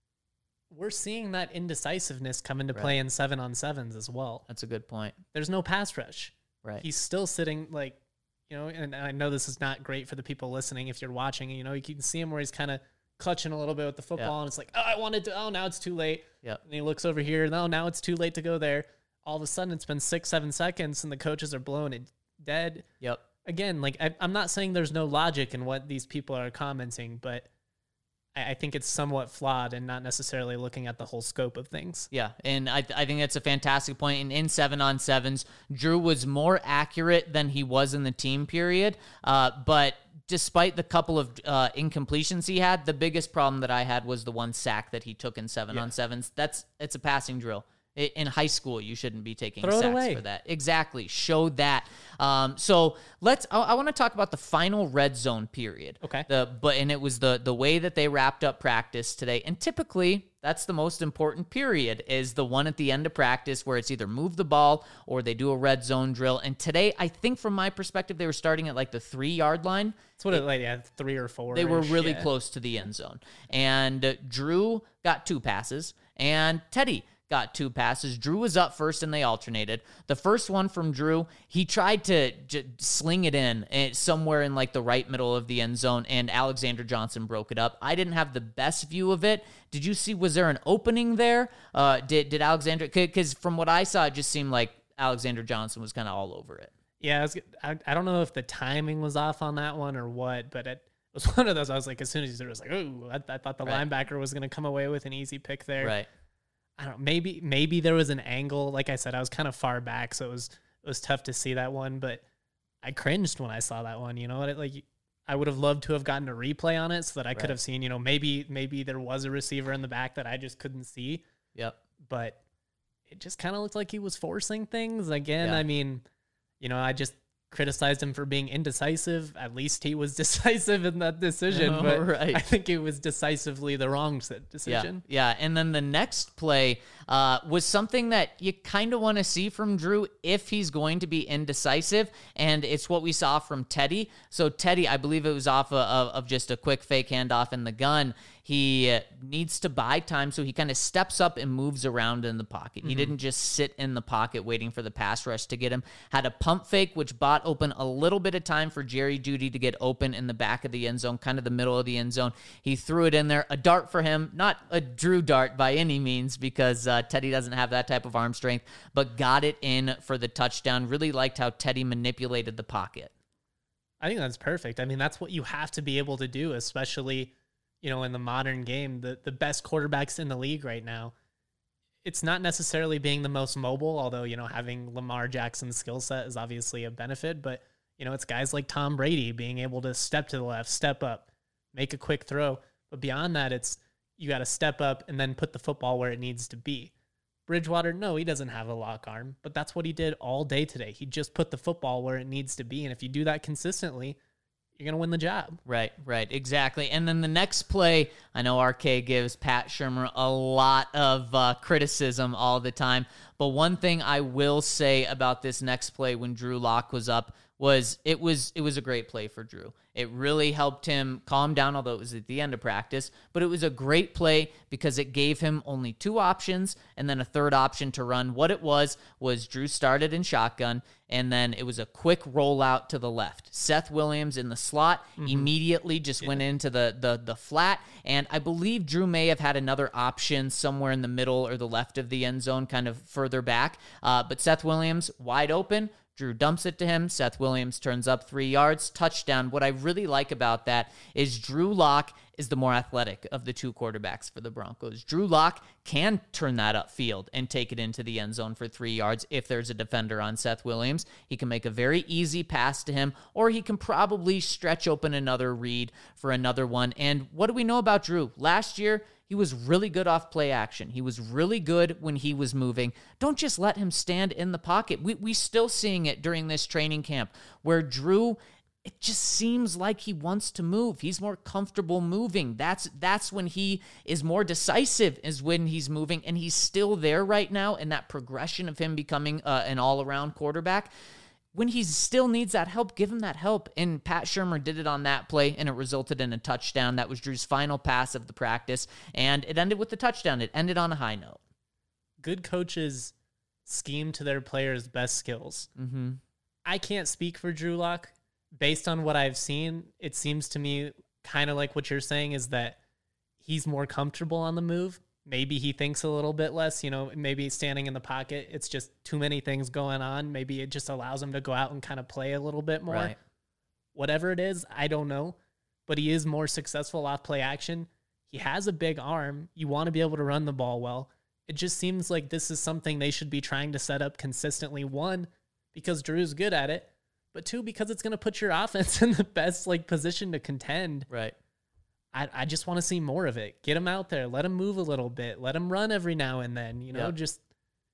We're seeing that indecisiveness come into play Right. in seven on sevens as well. That's a good point. There's no pass rush. Right. He's still sitting like, you know, and I know this is not great for the people listening if you're watching, you know, you can see him where he's kind of clutching a little bit with the football Yeah. and it's like, oh, I wanted to, oh, now it's too late. Yep. And he looks over here, no, now it's too late to go there. All of a sudden it's been six, seven seconds and the coaches are blowing it dead. Yep. Again, like I, I'm not saying there's no logic in what these people are commenting, but I, I think it's somewhat flawed and not necessarily looking at the whole scope of things. Yeah, and I, I think that's a fantastic point. And in seven on sevens, Drew was more accurate than he was in the team period. Uh, but despite the couple of uh, incompletions he had, the biggest problem that I had was the one sack that he took in seven Yeah. on sevens. That's it's a passing drill. I- In high school, you shouldn't be taking Throw it sacks away. for that. Exactly. Show that. Um, so let's. I, I want to talk about the final red zone period. Okay. The but and it was the the way that they wrapped up practice today. And typically, that's the most important period is the one at the end of practice where it's either move the ball or they do a red zone drill. And today, I think from my perspective, they were starting at like the three yard line. That's what it, like, yeah, three or four. They were really close to the end zone. And uh, Drew got two passes, and Teddy got two passes. Drew was up first, and they alternated. The first one from Drew, he tried to j- sling it in eh, somewhere in like the right middle of the end zone, and Alexander Johnson broke it up. I didn't have the best view of it. Did you see, was there an opening there? Uh, did, did Alexander, because from what I saw, it just seemed like Alexander Johnson was kind of all over it. Yeah, I, was, I, I don't know if the timing was off on that one or what, but it was one of those. I was like, as soon as he was like, oh, I, I thought the Right. linebacker was going to come away with an easy pick there. Right. I don't know, maybe maybe there was an angle. Like I said, I was kind of far back, so it was it was tough to see that one. But I cringed when I saw that one. You know, it, like I would have loved to have gotten a replay on it so that I could Right. have seen. You know, maybe maybe there was a receiver in the back that I just couldn't see. Yep. But it just kind of looked like he was forcing things again. Yeah. I mean, you know, I just criticized him for being indecisive. At least he was decisive in that decision. Oh, but right. I think it was decisively the wrong s- decision. Yeah, yeah. And then the next play uh, was something that you kind of want to see from Drew if he's going to be indecisive, and it's what we saw from Teddy. So Teddy, I believe it was off of, of just a quick fake handoff in the gun. He uh, needs to buy time, so he kind of steps up and moves around in the pocket. Mm-hmm. He didn't just sit in the pocket waiting for the pass rush to get him. Had a pump fake, which bought open a little bit of time for Jerry Jeudy to get open in the back of the end zone, kind of the middle of the end zone. He threw it in there. A dart for him, not a Drew dart by any means, because uh, Teddy doesn't have that type of arm strength, but got it in for the touchdown. Really liked how Teddy manipulated the pocket. I think that's perfect. I mean, that's what you have to be able to do, especially, you know, in the modern game. The the best quarterbacks in the league right now, it's not necessarily being the most mobile, although, you know, having Lamar Jackson's skill set is obviously a benefit, but, you know, it's guys like Tom Brady being able to step to the left, step up, make a quick throw. But beyond that, it's you got to step up and then put the football where it needs to be. Bridgewater, no, he doesn't have a lock arm, but that's what he did all day today. He just put the football where it needs to be. And if you do that consistently, you're going to win the job. Right, right, exactly. And then the next play, I know R K gives Pat Shurmur a lot of uh, criticism all the time, but one thing I will say about this next play when Drew Lock was up was it was it was a great play for Drew. It really helped him calm down, although it was at the end of practice, but it was a great play because it gave him only two options and then a third option to run. What it was was Drew started in shotgun, and then it was a quick rollout to the left. Seth Williams in the slot immediately just went into the, the the flat, and I believe Drew may have had another option somewhere in the middle or the left of the end zone, kind of further back, uh, but Seth Williams wide open. Drew dumps it to him. Seth Williams turns up three yards, touchdown. What I really like about that is Drew Lock is the more athletic of the two quarterbacks for the Broncos. Drew Lock can turn that upfield and take it into the end zone for three yards if there's a defender on Seth Williams. He can make a very easy pass to him, or he can probably stretch open another read for another one. And what do we know about Drew? Last year, he was really good off play action. He was really good when he was moving. Don't just let him stand in the pocket. We we still seeing it during this training camp where Drew, it just seems like he wants to move. He's more comfortable moving. That's that's when he is more decisive, is when he's moving, and he's still there right now. And that progression of him becoming uh, an all-around quarterback, when he still needs that help, give him that help. And Pat Shurmur did it on that play, and it resulted in a touchdown. That was Drew's final pass of the practice, and it ended with the touchdown. It ended on a high note. Good coaches scheme to their players' best skills. Mm-hmm. I can't speak for Drew Lock. Based on what I've seen, it seems to me kind of like what you're saying is that he's more comfortable on the move. Maybe he thinks a little bit less, you know, maybe standing in the pocket. It's just too many things going on. Maybe it just allows him to go out and kind of play a little bit more. Right. Whatever it is, I don't know. But he is more successful off play action. He has a big arm. You want to be able to run the ball well. It just seems like this is something they should be trying to set up consistently. One, because Drew's good at it. But two, because it's going to put your offense in the best like position to contend. Right. I, I just want to see more of it. Get him out there. Let him move a little bit. Let him run every now and then. You know, Yep. just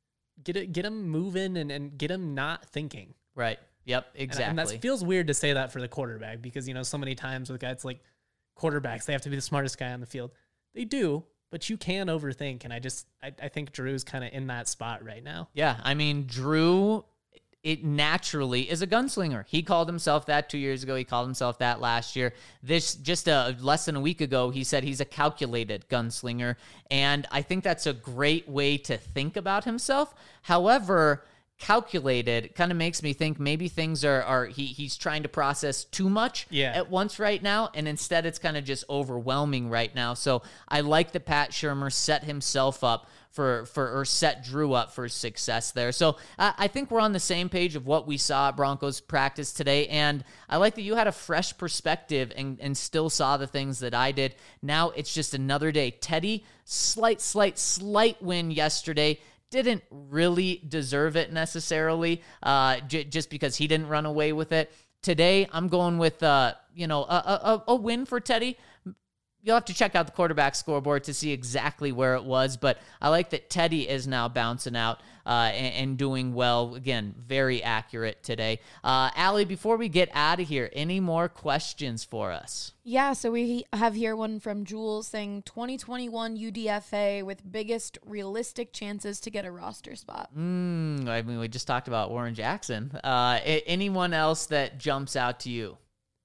get it, get him moving and, and get him not thinking. Right. Yep. And- Exactly. And, that feels weird to say that for the quarterback because, you know, so many times with guys like quarterbacks, they have to be the smartest guy on the field. They do, but you can overthink. And I just, I, I think Drew's kind of in that spot right now. Yeah, I mean, Drew, it naturally is a gunslinger. He called himself that two years ago. He called himself that last year. This just a less than a week ago, he said he's a calculated gunslinger, and I think that's a great way to think about himself. However, calculated kind of makes me think maybe things are are he he's trying to process too much Yeah. at once right now, and instead it's kind of just overwhelming right now. So I like that Pat Shurmur set himself up for for or set Drew up for success there. So uh, I think we're on the same page of what we saw at Broncos practice today, and I like that you had a fresh perspective and and still saw the things that I did. Now it's just another day. Teddy, slight slight slight win yesterday. Didn't really deserve it necessarily, uh, j- just because he didn't run away with it. Today, I'm going with, uh, you know, a, a, a win for Teddy. You'll have to check out the quarterback scoreboard to see exactly where it was, but I like that Teddy is now bouncing out uh, and, and doing well. Again, very accurate today. Uh, Allie, before we get out of here, any more questions for us? Yeah, so we have here one from Jules saying twenty twenty-one U D F A with biggest realistic chances to get a roster spot. Mm, I mean, we just talked about Warren Jackson. Uh, a- anyone else that jumps out to you?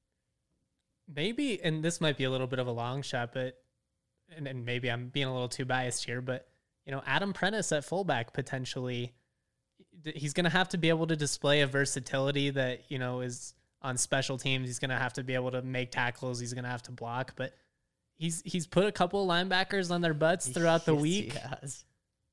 Maybe, and this might be a little bit of a long shot, but, and, and maybe I'm being a little too biased here, but, you know, Adam Prentice at fullback potentially, he's going to have to be able to display a versatility that, you know, is on special teams. He's going to have to be able to make tackles. He's going to have to block, but he's, he's put a couple of linebackers on their butts throughout the Yes, week. he has.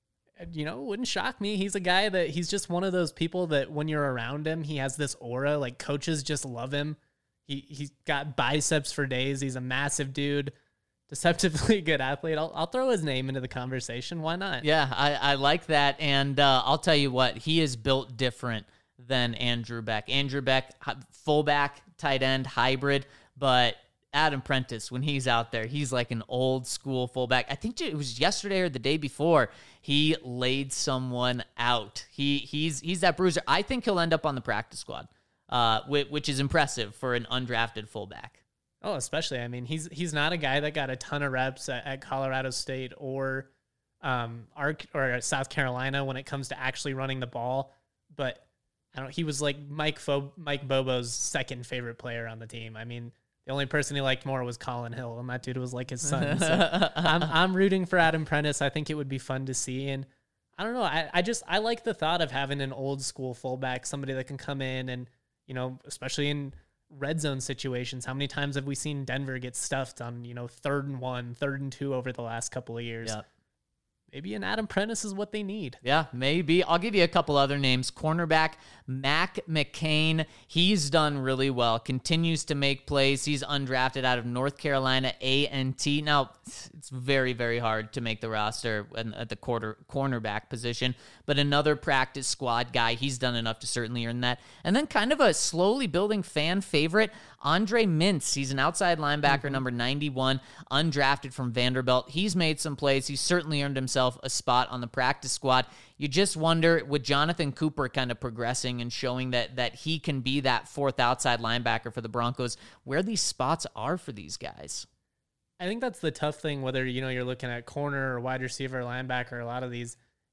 You know, it wouldn't shock me. He's a guy that he's just one of those people that when you're around him, he has this aura, like coaches just love him. He, he's got biceps for days. He's a massive dude, deceptively good athlete. I'll, I'll throw his name into the conversation. Why not? Yeah, I, I like that. And uh, I'll tell you what, he is built different than Andrew Beck. Andrew Beck, hi- fullback, tight end, hybrid, but Adam Prentice, when he's out there, he's like an old school fullback. I think it was yesterday or the day before, he laid someone out. He He's he's that bruiser. I think he'll end up on the practice squad, uh, which, which is impressive for an undrafted fullback. Oh, especially. I mean, he's he's not a guy that got a ton of reps at, at Colorado State or um Ark or South Carolina when it comes to actually running the ball. But I don't. He was like Mike Fo- Mike Bobo's second favorite player on the team. I mean, the only person he liked more was Colin Hill, and that dude was like his son. So I'm I'm rooting for Adam Prentice. I think it would be fun to see, and I don't know. I, I just I like the thought of having an old school fullback, somebody that can come in and, you know, especially in red zone situations. How many times have we seen Denver get stuffed on, you know, third and one, third and two over the last couple of years? Yep. Maybe an Adam Prentice is what they need. Yeah, maybe. I'll give you a couple other names. Cornerback Mac McCain. He's done really well. Continues to make plays. He's undrafted out of North Carolina A and T. Now, it's very, very hard to make the roster at the quarter cornerback position, but another practice squad guy. He's done enough to certainly earn that. And then kind of a slowly building fan favorite, Andre Mintz. He's an outside linebacker, mm-hmm. number ninety-one, undrafted from Vanderbilt. He's made some plays. He's certainly earned himself a spot on the practice squad. You just wonder, with Jonathan Cooper kind of progressing and showing that that he can be that fourth outside linebacker for the Broncos, where these spots are for these guys. I think that's the tough thing, whether, you know, you're looking at corner or wide receiver or linebacker, a lot of these,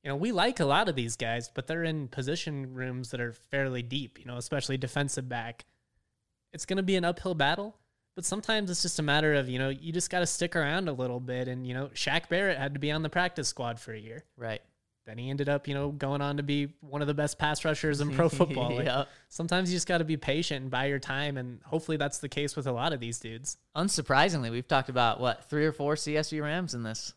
you know, we like a lot of these guys, but they're in position rooms that are fairly deep, you know, especially defensive back. It's going to be an uphill battle, but sometimes it's just a matter of, you know, you just got to stick around a little bit. And, you know, Shaq Barrett had to be on the practice squad for a year. Right. Then he ended up, you know, going on to be one of the best pass rushers in pro football. Like, Yep. Sometimes you just got to be patient and buy your time. And hopefully that's the case with a lot of these dudes. Unsurprisingly, we've talked about, what, three or four C S U Rams in this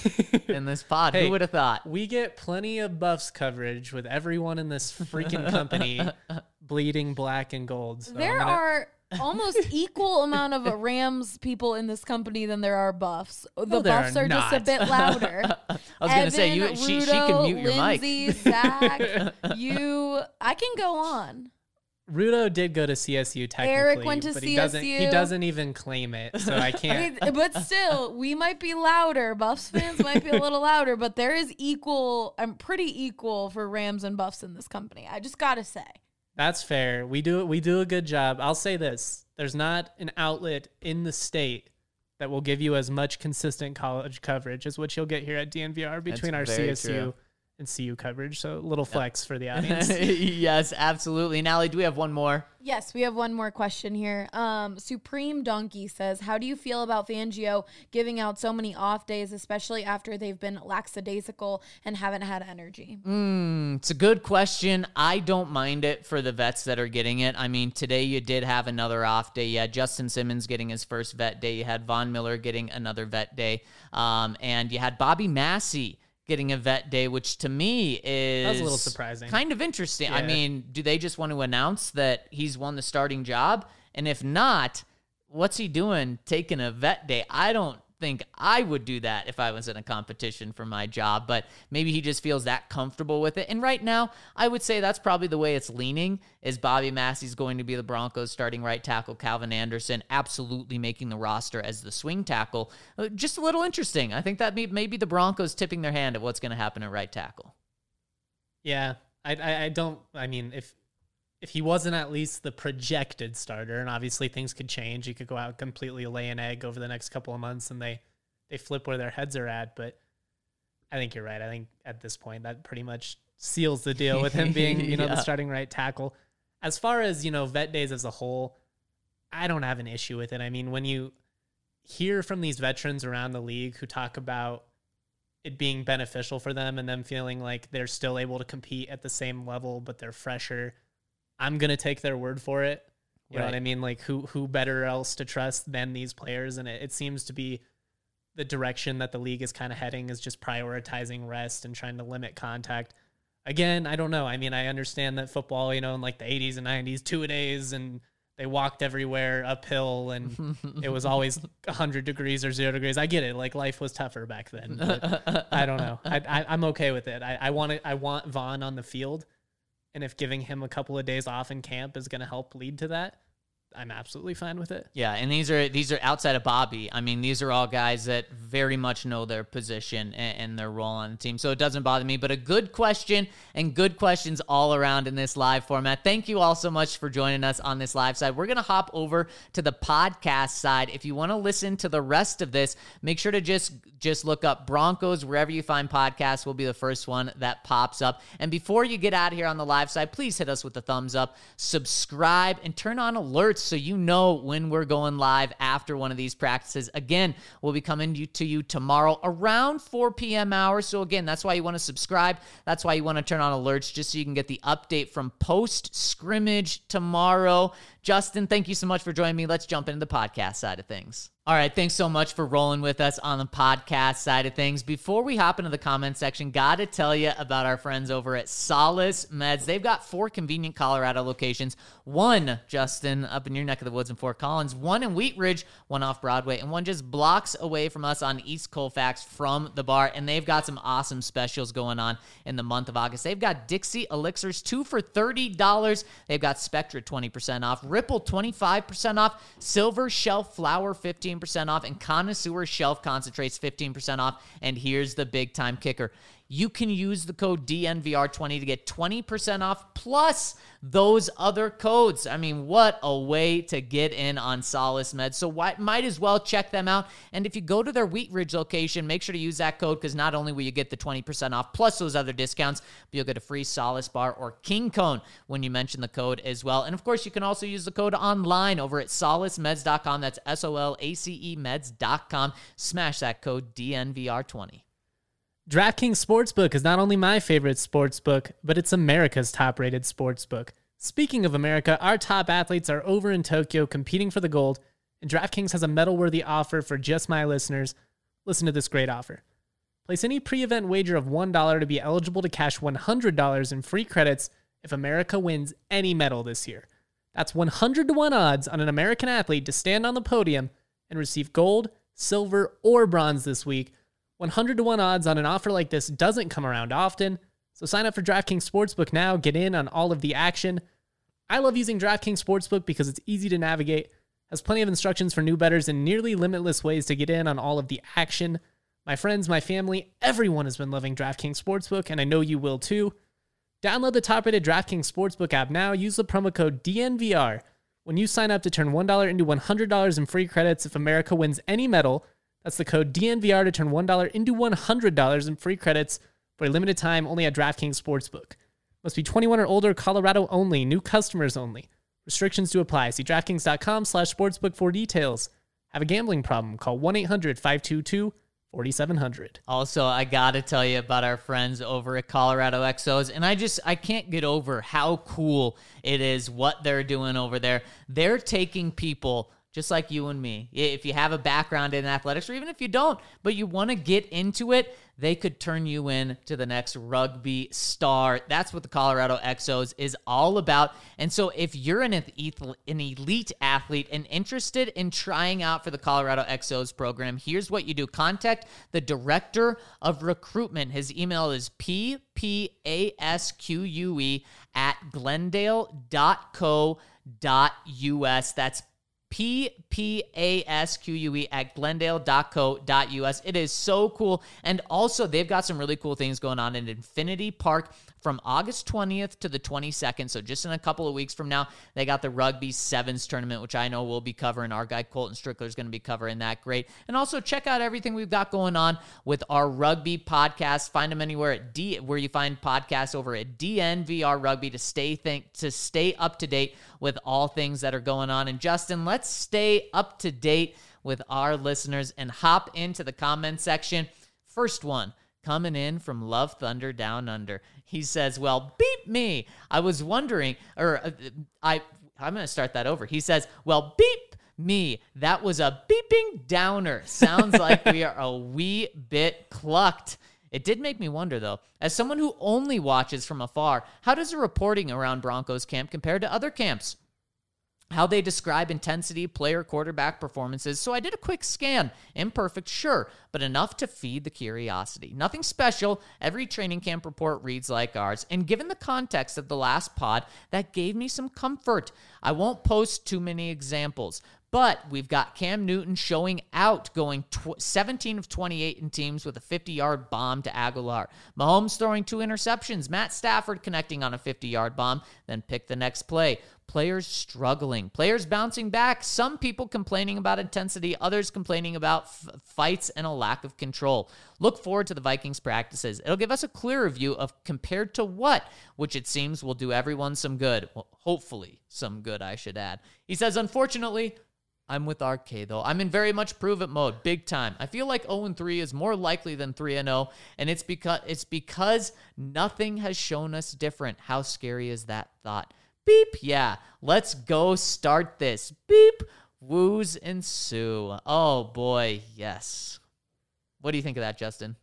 in this pod. Hey, Who would have thought? We get plenty of Buffs coverage with everyone in this freaking company bleeding black and gold. So There I'm gonna- are almost equal amount of Rams people in this company than there are Buffs. The No, there Buffs are are just a not. bit louder. I was going to say, you, Evan, she, she Rudo, can mute your mic. Lindsay, Zach, you. I can go on. Rudo did go to C S U technically, Eric went to but he doesn't. He C S U. doesn't even claim it, so I I can't. mean, but still, we might be louder. Buffs fans might be a little louder, but there is equal. I'm pretty equal for Rams and Buffs in this company. I just gotta say. That's fair. We do we do a good job. I'll say this: there's not an outlet in the state that will give you as much consistent college coverage as what you'll get here at D N V R between our very C S U true. and C U coverage. So a little flex for the audience. Yes, absolutely. Nally, do we have one more? Yes, we have one more question here. Um, Supreme Donkey says, how do you feel about Fangio giving out so many off days, especially after they've been lackadaisical and haven't had energy? Mm, it's a good question. I don't mind it for the vets that are getting it. I mean, today you did have another off day. You had Justin Simmons getting his first vet day. You had Von Miller getting another vet day. Um, and you had Bobby Massey getting a vet day, which to me is That was a little surprising. Kind of interesting. I Yeah. mean, do they just want to announce that he's won the starting job? And if not, what's he doing taking a vet day? I don't think I would do that if I was in a competition for my job, but maybe he just feels that comfortable with it. And right now, I would say that's probably the way it's leaning, is Bobby Massey's going to be the Broncos starting right tackle, Calvin Anderson absolutely making the roster as the swing tackle. Uh, Just a little interesting. I think that may, maybe the Broncos tipping their hand at what's going to happen at right tackle. Yeah, I, I I don't. I mean, if if he wasn't at least the projected starter, and obviously things could change, he could go out and completely lay an egg over the next couple of months, and they they flip where their heads are at. But I think you're right. I think at this point that pretty much seals the deal with him being, you know, Yeah. the starting right tackle. As far as, you know, vet days as a whole, I don't have an issue with it. I mean, when you hear from these veterans around the league who talk about it being beneficial for them and them feeling like they're still able to compete at the same level, but they're fresher, I'm going to take their word for it. You know Right. what I mean? Like who, who better else to trust than these players? And it, it seems to be the direction that the league is kind of heading, is just prioritizing rest and trying to limit contact. Again, I don't know. I mean, I understand that football, you know, in like the eighties and nineties, two-a-days, and they walked everywhere uphill, and it was always one hundred degrees or zero degrees. I get it. Like, life was tougher back then. But I don't know. I, I, I'm okay with it. I, I, want it, I want Vaughn on the field, and if giving him a couple of days off in camp is going to help lead to that, I'm absolutely fine with it. Yeah, and these are these are outside of Bobby. I mean, these are all guys that very much know their position and, and their role on the team, so it doesn't bother me. But a good question, and good questions all around in this live format. Thank you all so much for joining us on this live side. We're going to hop over to the podcast side. If you want to listen to the rest of this, make sure to just, just look up Broncos wherever you find podcasts. Will be the first one that pops up. And before you get out of here on the live side, please hit us with the thumbs up, subscribe, and turn on alerts so you know when we're going live after one of these practices. Again, we'll be coming to you, to you tomorrow around four p.m. hour. So again, that's why you want to subscribe. That's why you want to turn on alerts, just so you can get the update from post-scrimmage tomorrow. Justin, thank you so much for joining me. Let's jump into the podcast side of things. All right, thanks so much for rolling with us on the podcast side of things. Before we hop into the comment section, got to tell you about our friends over at Solace Meds. They've got four convenient Colorado locations. One, Justin, up in your neck of the woods in Fort Collins, one in Wheat Ridge, one off Broadway, and one just blocks away from us on East Colfax from the bar. And they've got some awesome specials going on in the month of August. They've got Dixie Elixirs, two for thirty dollars. They've got Spectra, twenty percent off. Ripple, twenty-five percent off. Silver Shelf Flower, fifteen percent off. And Connoisseur Shelf Concentrates, fifteen percent off. And here's the big time kicker. you can use the code D N V R twenty to get twenty percent off plus those other codes. I mean, what a way to get in on Solace Meds. So why, might as well check them out. And if you go to their Wheat Ridge location, make sure to use that code because not only will you get the twenty percent off plus those other discounts, but you'll get a free Solace bar or King Cone when you mention the code as well. And of course, you can also use the code online over at solace meds dot com. That's S O L A C E meds dot com. Smash that code D N V R twenty. DraftKings Sportsbook is not only my favorite sportsbook, but it's America's top-rated sportsbook. Speaking of America, our top athletes are over in Tokyo competing for the gold, and DraftKings has a medal-worthy offer for just my listeners. Listen to this great offer. Place any pre-event wager of one dollar to be eligible to cash one hundred dollars in free credits if America wins any medal this year. That's one hundred to one odds on an American athlete to stand on the podium and receive gold, silver, or bronze this week. one hundred to one odds on an offer like this doesn't come around often, so sign up for DraftKings Sportsbook now, get in on all of the action. I love using DraftKings Sportsbook because it's easy to navigate, has plenty of instructions for new bettors, and nearly limitless ways to get in on all of the action. My friends, my family, everyone has been loving DraftKings Sportsbook, and I know you will too. Download the top-rated DraftKings Sportsbook app now. Use the promo code D N V R when you sign up to turn one dollar into one hundred dollars in free credits if America wins any medal. That's the code D N V R to turn one dollar into one hundred dollars in free credits for a limited time only at DraftKings Sportsbook. Must be twenty-one or older, Colorado only, new customers only. Restrictions do apply. See DraftKings.com slash sportsbook for details. Have a gambling problem? Call one eight hundred five two two four seven zero zero. Also, I got to tell you about our friends over at Colorado X Os, and I just, I can't get over how cool it is what they're doing over there. They're taking people just like you and me. If you have a background in athletics, or even if you don't, but you want to get into it, they could turn you in to the next rugby star. That's what the Colorado X Os is all about. And so if you're an, an elite athlete and interested in trying out for the Colorado X Os program, here's what you do. Contact the director of recruitment. His email is p p a s q u e at glendale dot co dot u s. That's P P A S Q U E at glendale dot co dot U S. It is so cool. And also, they've got some really cool things going on in Infinity Park from August twentieth to the twenty-second. So just in a couple of weeks from now, they got the Rugby Sevens tournament, which I know we'll be covering. Our guy Colton Strickler is going to be covering that. Great. And also check out everything we've got going on with our rugby podcast. Find them anywhere at D, where you find podcasts over at D N V R Rugby to stay think to stay up to date with all things that are going on. And Justin, let's stay up to date with our listeners and hop into the comment section. First one coming in from Love Thunder Down Under. He says, well, beep me. I was wondering, or uh, I, I'm going to start that over. He says, well, beep me. That was a beeping downer. Sounds like we are a wee bit clucked. It did make me wonder, though, as someone who only watches from afar, how does the reporting around Broncos camp compare to other camps? How they describe intensity, player, quarterback performances. So I did a quick scan. Imperfect, sure, but enough to feed the curiosity. Nothing special. Every training camp report reads like ours. And given the context of the last pod, that gave me some comfort. I won't post too many examples, but we've got Cam Newton showing out, going tw- seventeen of twenty-eight in teams with a fifty-yard bomb to Aguilar. Mahomes throwing two interceptions. Matt Stafford connecting on a fifty-yard bomb, then pick the next play. Players struggling. Players bouncing back. Some people complaining about intensity. Others complaining about f- fights and a lack of control. Look forward to the Vikings practices. It'll give us a clearer view of compared to what, which it seems will do everyone some good. Well, hopefully some good, I should add. He says, unfortunately, I'm with R K, though. I'm in very much prove-it mode, big time. I feel like oh and three is more likely than three and oh, and it's because it's because nothing has shown us different. How scary is that thought? Beep, yeah. Let's go start this. Beep, woos ensue. Oh, boy, yes. What do you think of that, Justin?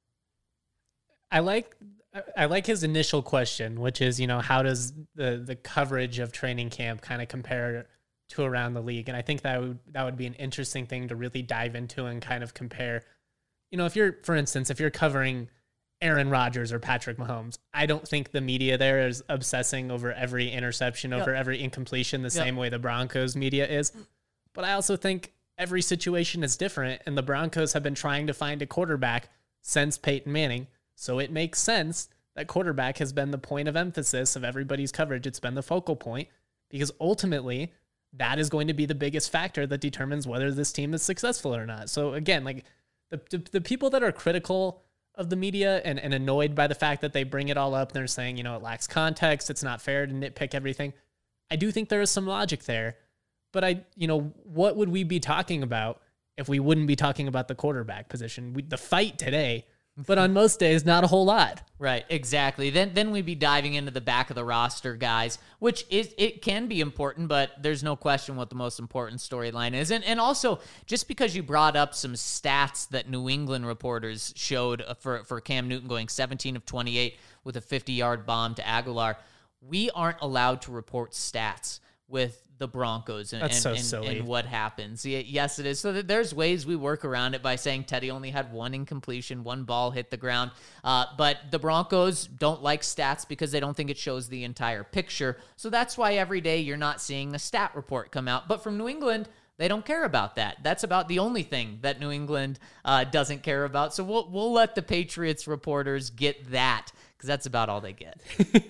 I like I like his initial question, which is, you know, how does the, the coverage of training camp kind of compare to around the league? And I think that would that would be an interesting thing to really dive into and kind of compare. You know, if you're, for instance, if you're covering Aaron Rodgers or Patrick Mahomes, I don't think the media there is obsessing over every interception, over yep. every incompletion the yep. same way the Broncos media is. But I also think every situation is different, and the Broncos have been trying to find a quarterback since Peyton Manning. So it makes sense that quarterback has been the point of emphasis of everybody's coverage. It's been the focal point because ultimately that is going to be the biggest factor that determines whether this team is successful or not. So again, like the, the, the people that are critical of the media and, and annoyed by the fact that they bring it all up and they're saying, you know, it lacks context. It's not fair to nitpick everything. I do think there is some logic there, but I, you know, what would we be talking about if we wouldn't be talking about the quarterback position? We, the fight today, but on most days, not a whole lot. Right, exactly. Then then we'd be diving into the back of the roster guys, which is it can be important, but there's no question what the most important storyline is. And and also, just because you brought up some stats that New England reporters showed for, for Cam Newton going seventeen of twenty-eight with a fifty-yard bomb to Aguilar, we aren't allowed to report stats with the Broncos and, That's and, so and, silly. and what happens. Y- Yes, it is. So that there's ways we work around it by saying Teddy only had one incompletion, one ball hit the ground. Uh, but the Broncos don't like stats because they don't think it shows the entire picture. So that's why every day you're not seeing a stat report come out. But from New England, they don't care about that. That's about the only thing that New England uh, doesn't care about. So we'll we'll let the Patriots reporters get that because that's about all they get.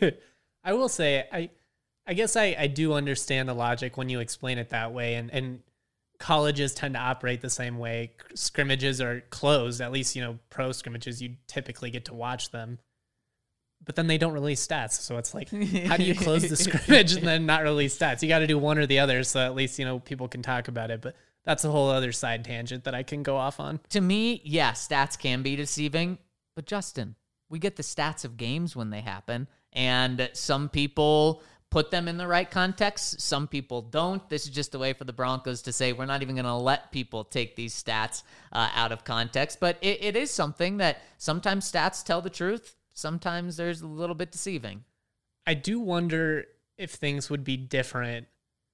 I will say, I I guess I, I do understand the logic when you explain it that way, and, and colleges tend to operate the same way. Scrimmages are closed, at least, you know, pro scrimmages, you typically get to watch them, but then they don't release stats. So it's like, how do you close the scrimmage and then not release stats? You got to do one or the other, so at least, you know, people can talk about it, but that's a whole other side tangent that I can go off on. To me, yeah, stats can be deceiving, but Justin, we get the stats of games when they happen, and some people put them in the right context. Some people don't. This is just a way for the Broncos to say, we're not even going to let people take these stats uh, out of context. But it, it is something that sometimes stats tell the truth. Sometimes there's a little bit deceiving. I do wonder if things would be different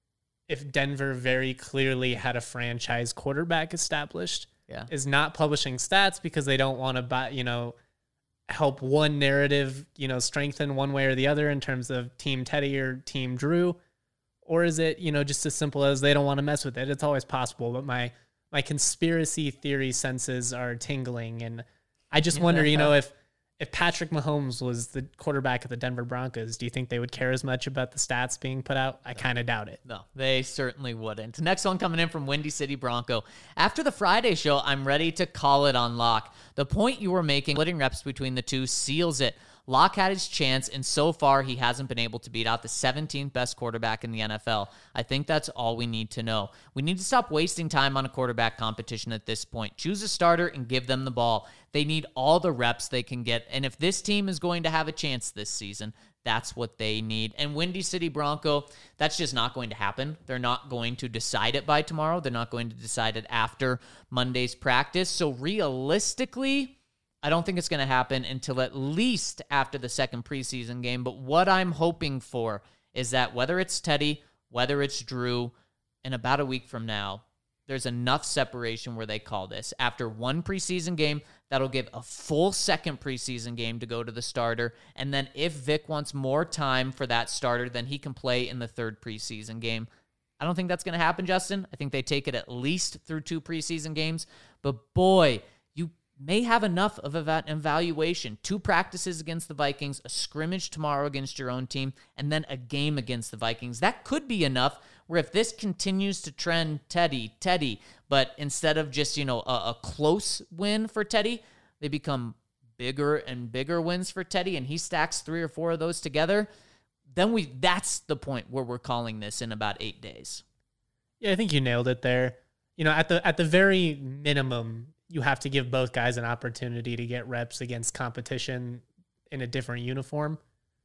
if Denver very clearly had a franchise quarterback established. Yeah. Is not publishing stats because they don't want to buy, you know, help one narrative, you know, strengthen one way or the other in terms of Team Teddy or Team Drew? Or is it, you know, just as simple as they don't want to mess with it? It's always possible, but my my conspiracy theory senses are tingling, and I just wonder, you know, if if Patrick Mahomes was the quarterback of the Denver Broncos, do you think they would care as much about the stats being put out? I kind of doubt it. No, they certainly wouldn't. Next one coming in from Windy City Bronco. After the Friday show, I'm ready to call it on Locke. The point you were making, splitting reps between the two, seals it. Locke had his chance, and so far he hasn't been able to beat out the seventeenth best quarterback in the N F L. I think that's all we need to know. We need to stop wasting time on a quarterback competition at this point. Choose a starter and give them the ball. They need all the reps they can get, and if this team is going to have a chance this season, that's what they need. And Windy City Bronco, that's just not going to happen. They're not going to decide it by tomorrow. They're not going to decide it after Monday's practice. So realistically, I don't think it's going to happen until at least after the second preseason game. But what I'm hoping for is that whether it's Teddy, whether it's Drew, in about a week from now, there's enough separation where they call this. After one preseason game, that'll give a full second preseason game to go to the starter. And then if Vic wants more time for that starter, then he can play in the third preseason game. I don't think that's going to happen, Justin. I think they take it at least through two preseason games. But boy, you may have enough of an evaluation. Two practices against the Vikings, a scrimmage tomorrow against your own team, and then a game against the Vikings. That could be enough where if this continues to trend Teddy, Teddy, but instead of just, you know, a, a close win for Teddy, they become bigger and bigger wins for Teddy, and he stacks three or four of those together, then we that's the point where we're calling this in about eight days. Yeah, I think you nailed it there. You know, at the at the very minimum, you have to give both guys an opportunity to get reps against competition in a different uniform.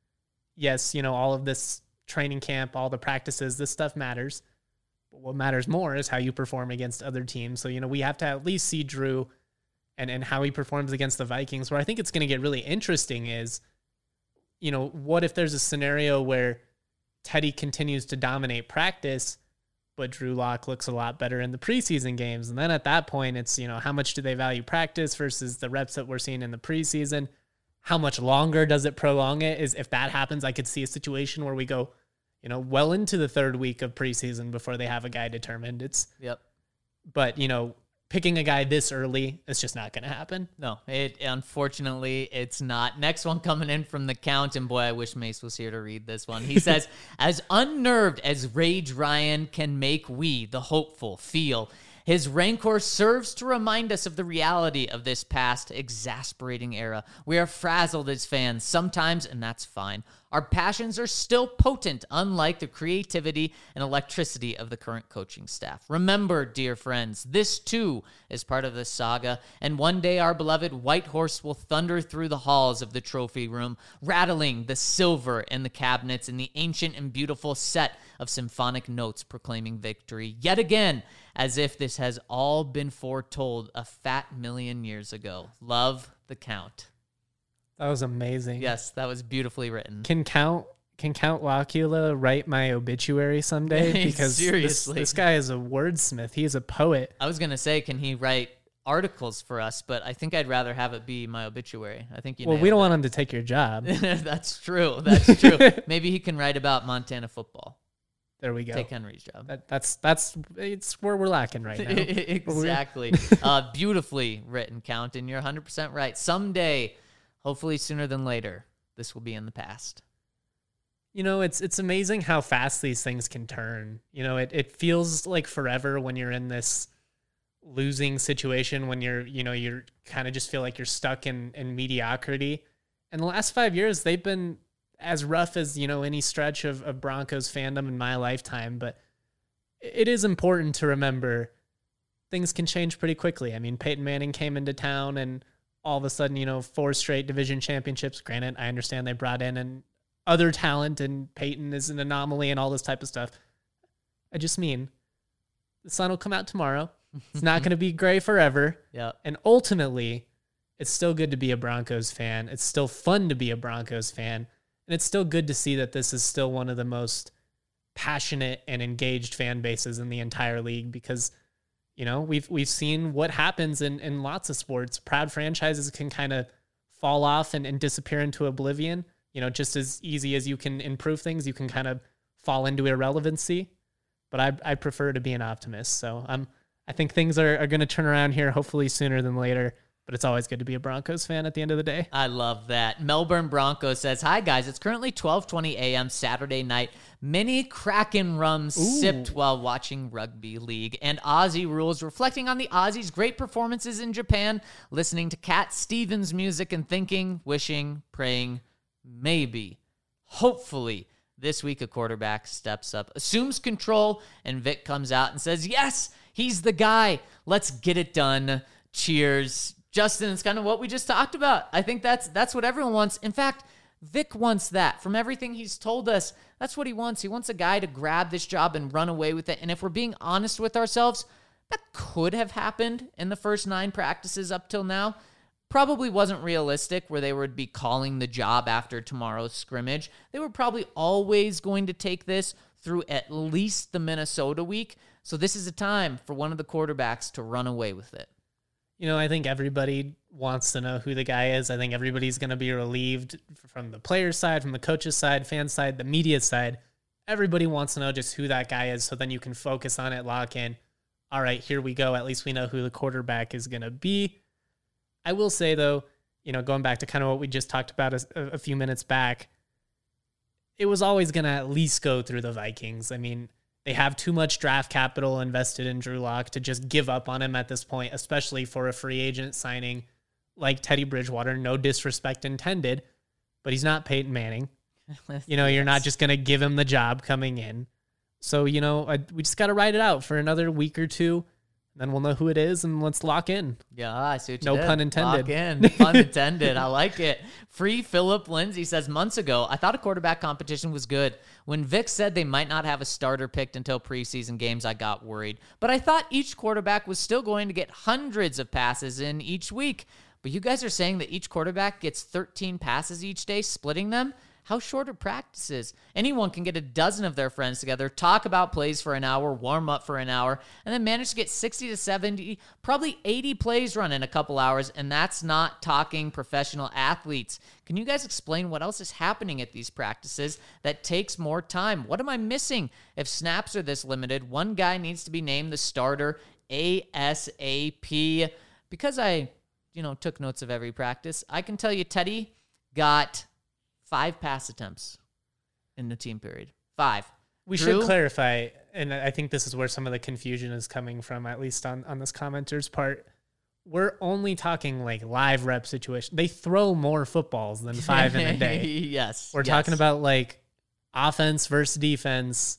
Yes, you know, all of this training camp, all the practices, this stuff matters. But what matters more is how you perform against other teams. So, you know, we have to at least see Drew and, and how he performs against the Vikings. Where I think it's going to get really interesting is, you know, what if there's a scenario where Teddy continues to dominate practice, but Drew Lock looks a lot better in the preseason games. And then at that point, it's, you know, how much do they value practice versus the reps that we're seeing in the preseason? How much longer does it prolong it? Is if that happens, I could see a situation where we go, you know, well into the third week of preseason before they have a guy determined. It's, Yep. but, you know, picking a guy this early, it's just not going to happen. No, it unfortunately it's not. Next one coming in from the Count, and boy, I wish Mace was here to read this one. He says, as unnerved as Rage Ryan can make we, the hopeful, feel, his rancor serves to remind us of the reality of this past exasperating era. We are frazzled as fans sometimes, and that's fine. Our passions are still potent, unlike the creativity and electricity of the current coaching staff. Remember, dear friends, this too is part of the saga, and one day our beloved White Horse will thunder through the halls of the trophy room, rattling the silver in the cabinets in the ancient and beautiful set of symphonic notes proclaiming victory yet again, as if this has all been foretold a fat million years ago. Love, the Count. That was amazing. Yes, that was beautifully written. Can Count can Count Locula write my obituary someday? Because seriously, this, this guy is a wordsmith. He is a poet. I was gonna say, can he write articles for us? But I think I'd rather have it be my obituary. I think you. Well, we don't want him to take your job. That's true. That's true. Maybe he can write about Montana football. There we go. Take Henry's job. That, that's that's it's where we're lacking right now. Exactly. uh, beautifully written, Count, and you're one hundred percent right. Someday, hopefully sooner than later, this will be in the past. You know, it's it's amazing how fast these things can turn. You know, it, it feels like forever when you're in this losing situation, when you're, you know, you're kind of just feel like you're stuck in, in mediocrity. And the last five years, they've been as rough as, you know, any stretch of, of Broncos fandom in my lifetime. But it is important to remember things can change pretty quickly. I mean, Peyton Manning came into town and all of a sudden, you know, four straight division championships. Granted, I understand they brought in an other talent and Peyton is an anomaly and all this type of stuff. I just mean the sun will come out tomorrow. It's not going to be gray forever. Yeah. And ultimately, it's still good to be a Broncos fan. It's still fun to be a Broncos fan. And it's still good to see that this is still one of the most passionate and engaged fan bases in the entire league because, you know, we've we've seen what happens in, in lots of sports. Proud franchises can kind of fall off and, and disappear into oblivion. You know, just as easy as you can improve things, you can kind of fall into irrelevancy. But I I prefer to be an optimist. So I'm I think things are, are going to turn around here, hopefully sooner than later. But it's always good to be a Broncos fan at the end of the day. I love that. Melbourne Broncos says, hi, guys. It's currently twelve twenty a.m. Saturday night. Many Kraken rums Ooh. sipped while watching rugby league. And Aussie rules, reflecting on the Aussies' great performances in Japan, listening to Cat Stevens music and thinking, wishing, praying, maybe, hopefully, this week a quarterback steps up, assumes control, and Vic comes out and says, yes, he's the guy. Let's get it done. Cheers. Justin, it's kind of what we just talked about. I think that's that's what everyone wants. In fact, Vic wants that. From everything he's told us, that's what he wants. He wants a guy to grab this job and run away with it. And if we're being honest with ourselves, that could have happened in the first nine practices up till now. Probably wasn't realistic where they would be calling the job after tomorrow's scrimmage. They were probably always going to take this through at least the Minnesota week. So this is a time for one of the quarterbacks to run away with it. You know, I think everybody wants to know who the guy is. I think everybody's going to be relieved from the player's side, from the coach's side, fan side, the media side. Everybody wants to know just who that guy is so then you can focus on it, lock in. All right, here we go. At least we know who the quarterback is going to be. I will say, though, you know, going back to kind of what we just talked about a, a few minutes back, it was always going to at least go through the Vikings. I mean, they have too much draft capital invested in Drew Lock to just give up on him at this point, especially for a free agent signing like Teddy Bridgewater. No disrespect intended, but he's not Peyton Manning. You know, you're not just going to give him the job coming in. So, you know, I, we just got to ride it out for another week or two. Then we'll know who it is, and let's lock in. Yeah, I see what you no did. pun intended. Lock in. Pun intended. I like it. Free Philip Lindsay says, months ago, I thought a quarterback competition was good. When Vic said they might not have a starter picked until preseason games, I got worried. But I thought each quarterback was still going to get hundreds of passes in each week. But you guys are saying that each quarterback gets thirteen passes each day, splitting them? How short are practices? Anyone can get a dozen of their friends together, talk about plays for an hour, warm up for an hour, and then manage to get sixty to seventy, probably eighty plays run in a couple hours, and that's not talking professional athletes. Can you guys explain what else is happening at these practices that takes more time? What am I missing? If snaps are this limited, one guy needs to be named the starter ASAP. Because I, you know, took notes of every practice, I can tell you Teddy got five pass attempts in the team period. Five. We Drew? should clarify, and I think this is where some of the confusion is coming from, at least on, on this commenter's part. We're only talking like live rep situation. They throw more footballs than five in a day. Yes. We're yes. talking about like offense versus defense,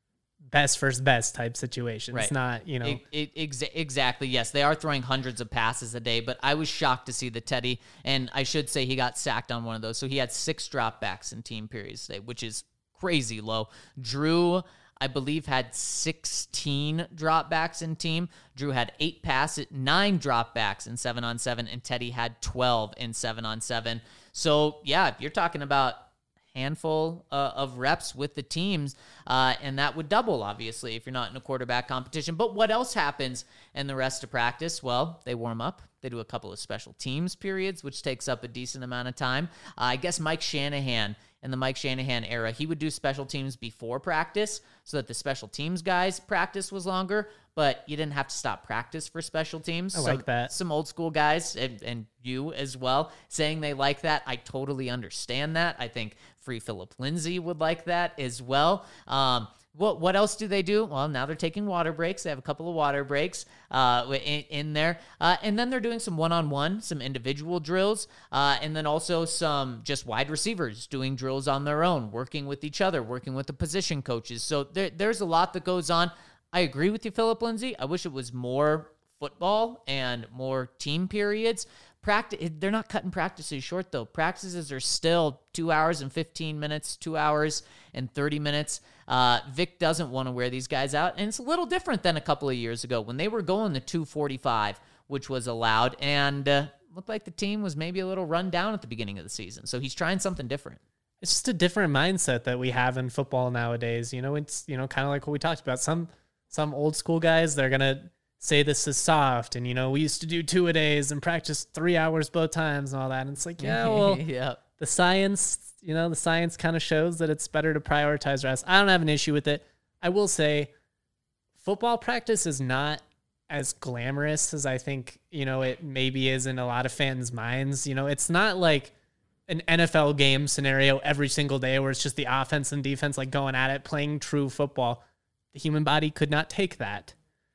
best versus best type situation. Right. It's not, you know. It, it, exa- exactly. Yes, they are throwing hundreds of passes a day, but I was shocked to see the Teddy, and I should say he got sacked on one of those. So he had six dropbacks in team periods today, which is crazy low. Drew, I believe, had sixteen dropbacks in team. Drew had eight passes, nine dropbacks in seven on seven, and Teddy had twelve in seven on seven. So yeah, you're talking about handful uh, of reps with the teams, uh, and that would double, obviously, if you're not in a quarterback competition. But what else happens in the rest of practice? Well, they warm up. They do a couple of special teams periods, which takes up a decent amount of time. Uh, I guess Mike Shanahan, in the Mike Shanahan era, he would do special teams before practice so that the special teams guys' practice was longer, but you didn't have to stop practice for special teams. I some, like that. Some old school guys, and, and you as well, saying they like that. I totally understand that. I think Free Philip Lindsay would like that as well. Um, What what else do they do? Well, now they're taking water breaks. They have a couple of water breaks uh, in, in there. Uh, and then they're doing some one-on-one, some individual drills, uh, and then also some just wide receivers doing drills on their own, working with each other, working with the position coaches. So there, there's a lot that goes on. I agree with you, Philip Lindsay. I wish it was more football and more team periods. Practice, they're not cutting practices short, though. Practices are still two hours and fifteen minutes, two hours and thirty minutes. Uh, Vic doesn't want to wear these guys out, and it's a little different than a couple of years ago when they were going to two forty-five, which was allowed, and uh, looked like the team was maybe a little run down at the beginning of the season. So he's trying something different. It's just a different mindset that we have in football nowadays. You know, it's, you know, kind of like what we talked about. Some some old school guys, they're going to say this is soft, and, you know, we used to do two a days and practice three hours both times and all that. And it's like, yeah, well, yeah. the science, you know, the science kind of shows that it's better to prioritize rest. I don't have an issue with it. I will say football practice is not as glamorous as I think, you know, it maybe is in a lot of fans' minds. You know, it's not like an N F L game scenario every single day where it's just the offense and defense like going at it, playing true football. The human body could not take that.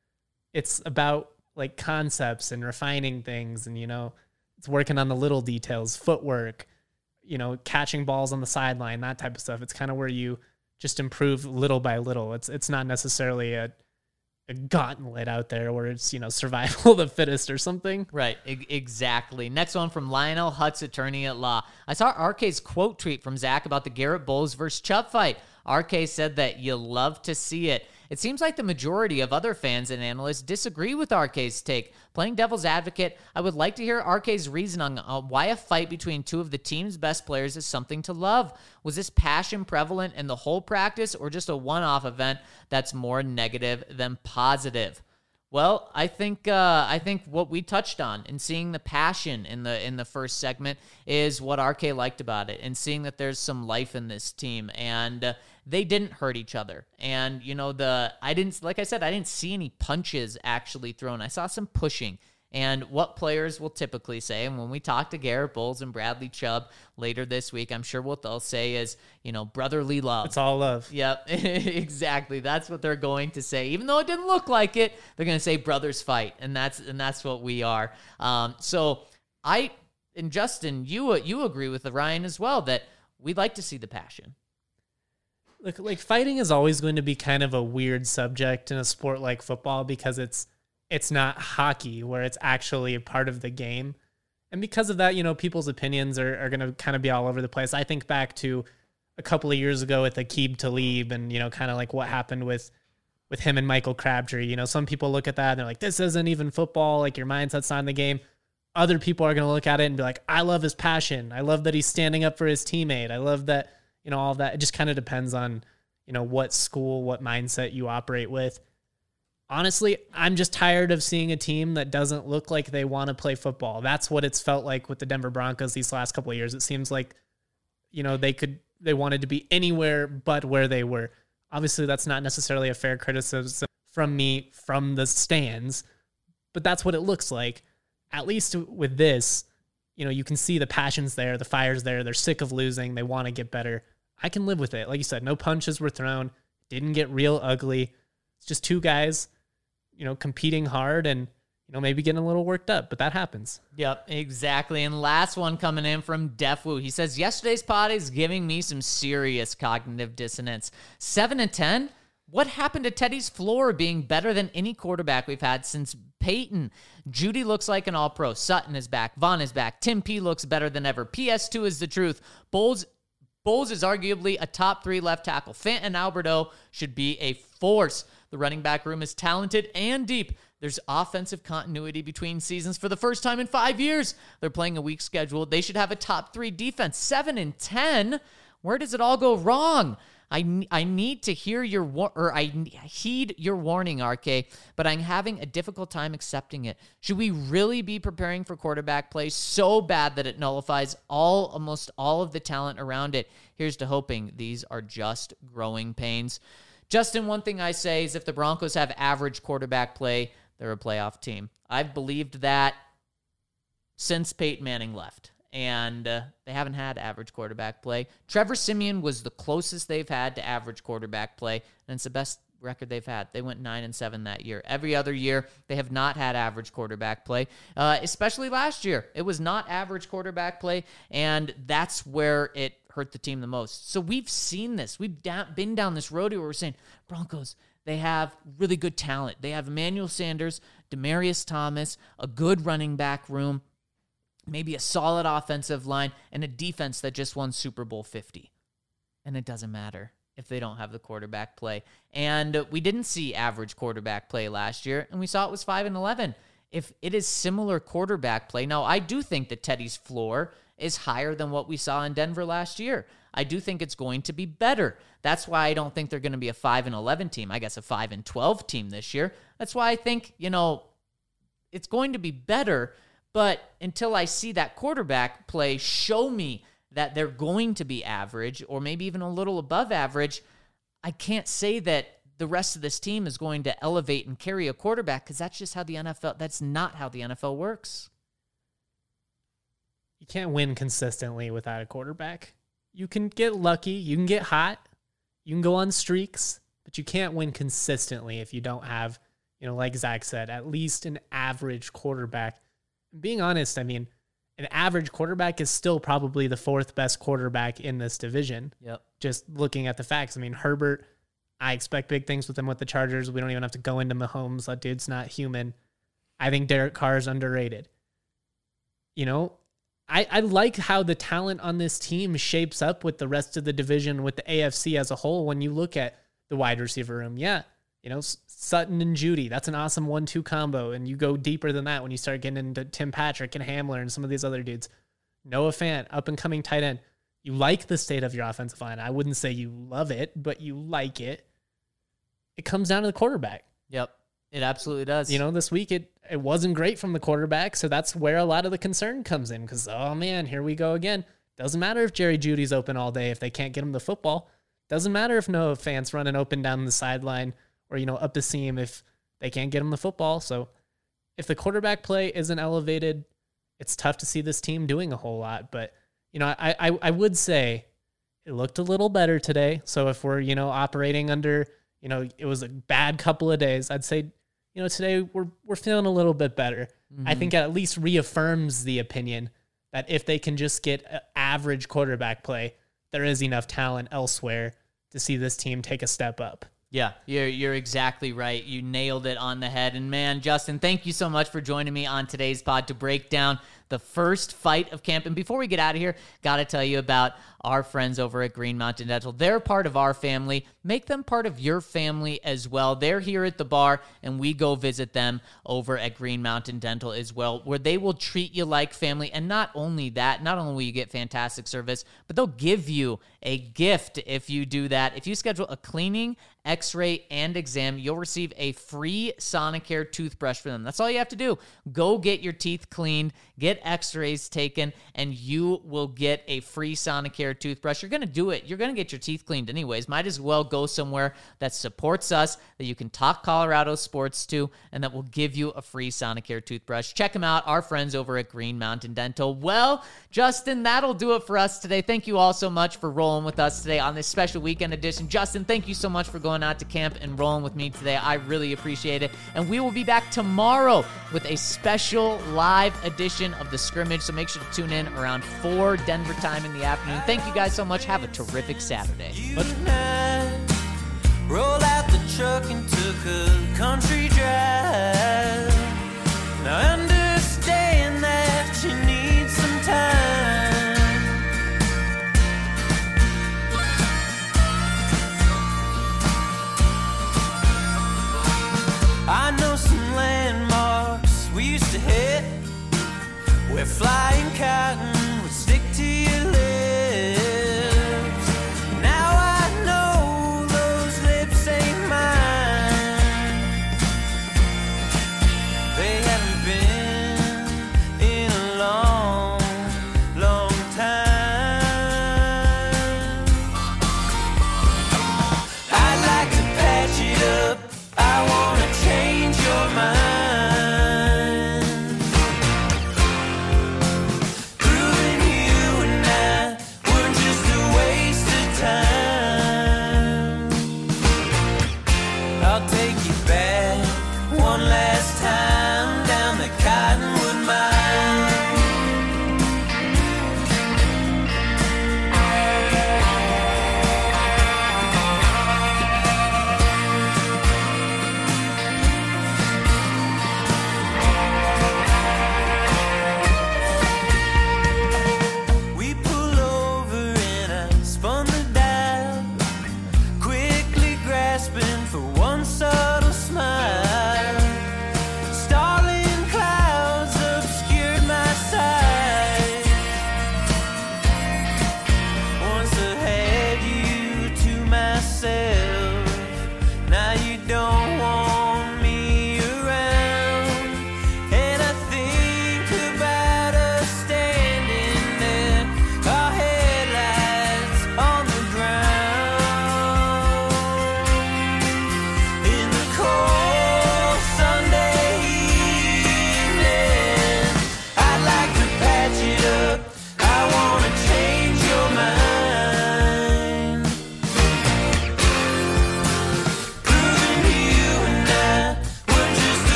It's about like concepts and refining things, and, you know, it's working on the little details, footwork, you know, catching balls on the sideline, that type of stuff. It's kind of where you just improve little by little. It's it's not necessarily a a gauntlet out there where it's, you know, survival of the fittest or something. Right, e- exactly. Next one from Lionel Hutz, attorney at law. I saw R K's quote tweet from Zach about the Garrett Bowles versus Chubb fight. R K said that you love to see it. It seems like the majority of other fans and analysts disagree with R K's take. Playing devil's advocate, I would like to hear R K's reason on uh, why a fight between two of the team's best players is something to love. Was this passion prevalent in the whole practice, or just a one-off event that's more negative than positive? Well, I think uh, I think what we touched on in seeing the passion in the in the first segment is what R K liked about it, and seeing that there's some life in this team, and uh, they didn't hurt each other. And you know, the I didn't like I said I didn't see any punches actually thrown. I saw some pushing. And what players will typically say, and when we talk to Garrett Bowles and Bradley Chubb later this week, I'm sure what they'll say is, you know, brotherly love. It's all love. Yep, exactly. That's what they're going to say. Even though it didn't look like it, they're going to say brothers fight, and that's and that's what we are. Um, so I and Justin, you you agree with Ryan as well that we'd like to see the passion. Look, like fighting is always going to be kind of a weird subject in a sport like football because it's it's not hockey where it's actually a part of the game. And because of that, you know, people's opinions are, are going to kind of be all over the place. I think back to a couple of years ago with Aqib Talib and, you know, kind of like what happened with, with him and Michael Crabtree. You know, some people look at that and they're like, this isn't even football. Like, your mindset's not in the game. Other people are going to look at it and be like, I love his passion. I love that he's standing up for his teammate. I love that, you know, all of that. It just kind of depends on, you know, what school, what mindset you operate with. Honestly, I'm just tired of seeing a team that doesn't look like they want to play football. That's what it's felt like with the Denver Broncos these last couple of years. It seems like, you know, they could, they wanted to be anywhere but where they were. Obviously, that's not necessarily a fair criticism. from me from the stands, but that's what it looks like. At least with this, you know, you can see the passion's there, the fire's there. They're sick of losing. They want to get better. I can live with it. Like you said, no punches were thrown. Didn't get real ugly. It's just two guys, you know, competing hard and, you know, maybe getting a little worked up, but that happens. Yep, exactly. And last one coming in from Defwoo. He says, yesterday's pod is giving me some serious cognitive dissonance. Seven and ten? What happened to Teddy's floor being better than any quarterback we've had since Peyton? Judy looks like an all-pro. Sutton is back. Vaughn is back. Tim P looks better than ever. P S two is the truth. Bowles, Bowles is arguably a top three left tackle. Fant and Alberto should be a force. The running back room is talented and deep. There's offensive continuity between seasons for the first time in five years. They're playing a weak schedule. They should have a top three defense. Seven and ten? Where does it all go wrong? I, I need to hear your, war- or I heed your warning, R K, but I'm having a difficult time accepting it. Should we really be preparing for quarterback play so bad that it nullifies all, almost all of the talent around it? Here's to hoping these are just growing pains. Justin, one thing I say is if the Broncos have average quarterback play, they're a playoff team. I've believed that since Peyton Manning left. And uh, they haven't had average quarterback play. Trevor Siemian was the closest they've had to average quarterback play, and it's the best record they've had. They went nine and seven that year. Every other year, they have not had average quarterback play, uh, especially last year. It was not average quarterback play, and that's where it hurt the team the most. So we've seen this. We've da- been down this road where we're saying, Broncos, they have really good talent. They have Emmanuel Sanders, Demaryius Thomas, a good running back room, maybe a solid offensive line, and a defense that just won Super Bowl fifty. And it doesn't matter if they don't have the quarterback play. And we didn't see average quarterback play last year, and we saw it was five and eleven. If it is similar quarterback play, now I do think that Teddy's floor is higher than what we saw in Denver last year. I do think it's going to be better. That's why I don't think they're going to be a five and eleven team. I guess a five and twelve team this year. That's why I think, you know, it's going to be better. But until I see that quarterback play show me that they're going to be average or maybe even a little above average, I can't say that the rest of this team is going to elevate and carry a quarterback because that's just how the N F L, that's not how the N F L works. You can't win consistently without a quarterback. You can get lucky. You can get hot. You can go on streaks, but you can't win consistently if you don't have, you know, like Zach said, at least an average quarterback. Being honest, I mean, an average quarterback is still probably the fourth best quarterback in this division. Yep. Just looking at the facts. I mean, Herbert, I expect big things with him with the Chargers. We don't even have to go into Mahomes. That dude's not human. I think Derek Carr is underrated. You know, I, I like how the talent on this team shapes up with the rest of the division, with the A F C as a whole. When you look at the wide receiver room, yeah, you know, Sutton and Judy, that's an awesome one two combo. And you go deeper than that when you start getting into Tim Patrick and Hamler and some of these other dudes. Noah Fant, up-and-coming tight end. You like the state of your offensive line. I wouldn't say you love it, but you like it. It comes down to the quarterback. Yep, it absolutely does. You know, this week it, it wasn't great from the quarterback, so that's where a lot of the concern comes in because, oh, man, here we go again. Doesn't matter if Jerry Judy's open all day if they can't get him the football. Doesn't matter if Noah Fant's running open down the sideline or, you know, up the seam if they can't get him the football. So if the quarterback play isn't elevated, it's tough to see this team doing a whole lot. But, you know, I, I, I would say it looked a little better today. So if we're, you know, operating under, you know, it was a bad couple of days, I'd say, you know, today we're we're feeling a little bit better. Mm-hmm. I think it at least reaffirms the opinion that if they can just get average quarterback play, there is enough talent elsewhere to see this team take a step up. Yeah, you're you're exactly right. You nailed it on the head. And man, Justin, thank you so much for joining me on today's pod to break down the first fight of camp. And before we get out of here, got to tell you about our friends over at Green Mountain Dental. They're part of our family. Make them part of your family as well. They're here at the bar, and we go visit them over at Green Mountain Dental as well, where they will treat you like family. And not only that, not only will you get fantastic service, but they'll give you a gift if you do that. If you schedule a cleaning, x-ray, and exam, you'll receive a free Sonicare toothbrush for them. That's all you have to do. Go get your teeth cleaned, get x-rays taken, and you will get a free Sonicare toothbrush. You're going to do it. You're going to get your teeth cleaned anyways. Might as well go somewhere that supports us, that you can talk Colorado sports to, and that will give you a free Sonicare toothbrush. Check them out, our friends over at Green Mountain Dental. Well, Justin, that'll do it for us today. Thank you all so much for rolling with us today on this special weekend edition. Justin, thank you so much for going out to camp and rolling with me today. I really appreciate it. And we will be back tomorrow with a special live edition of The Scrimmage, so make sure to tune in around four Denver time in the afternoon. Thank you guys so much. Have a terrific Saturday. You and I rolled out the truck and took a country drive. Now I understand that you need some time. I know some landmarks we used to hit. We're flying cotton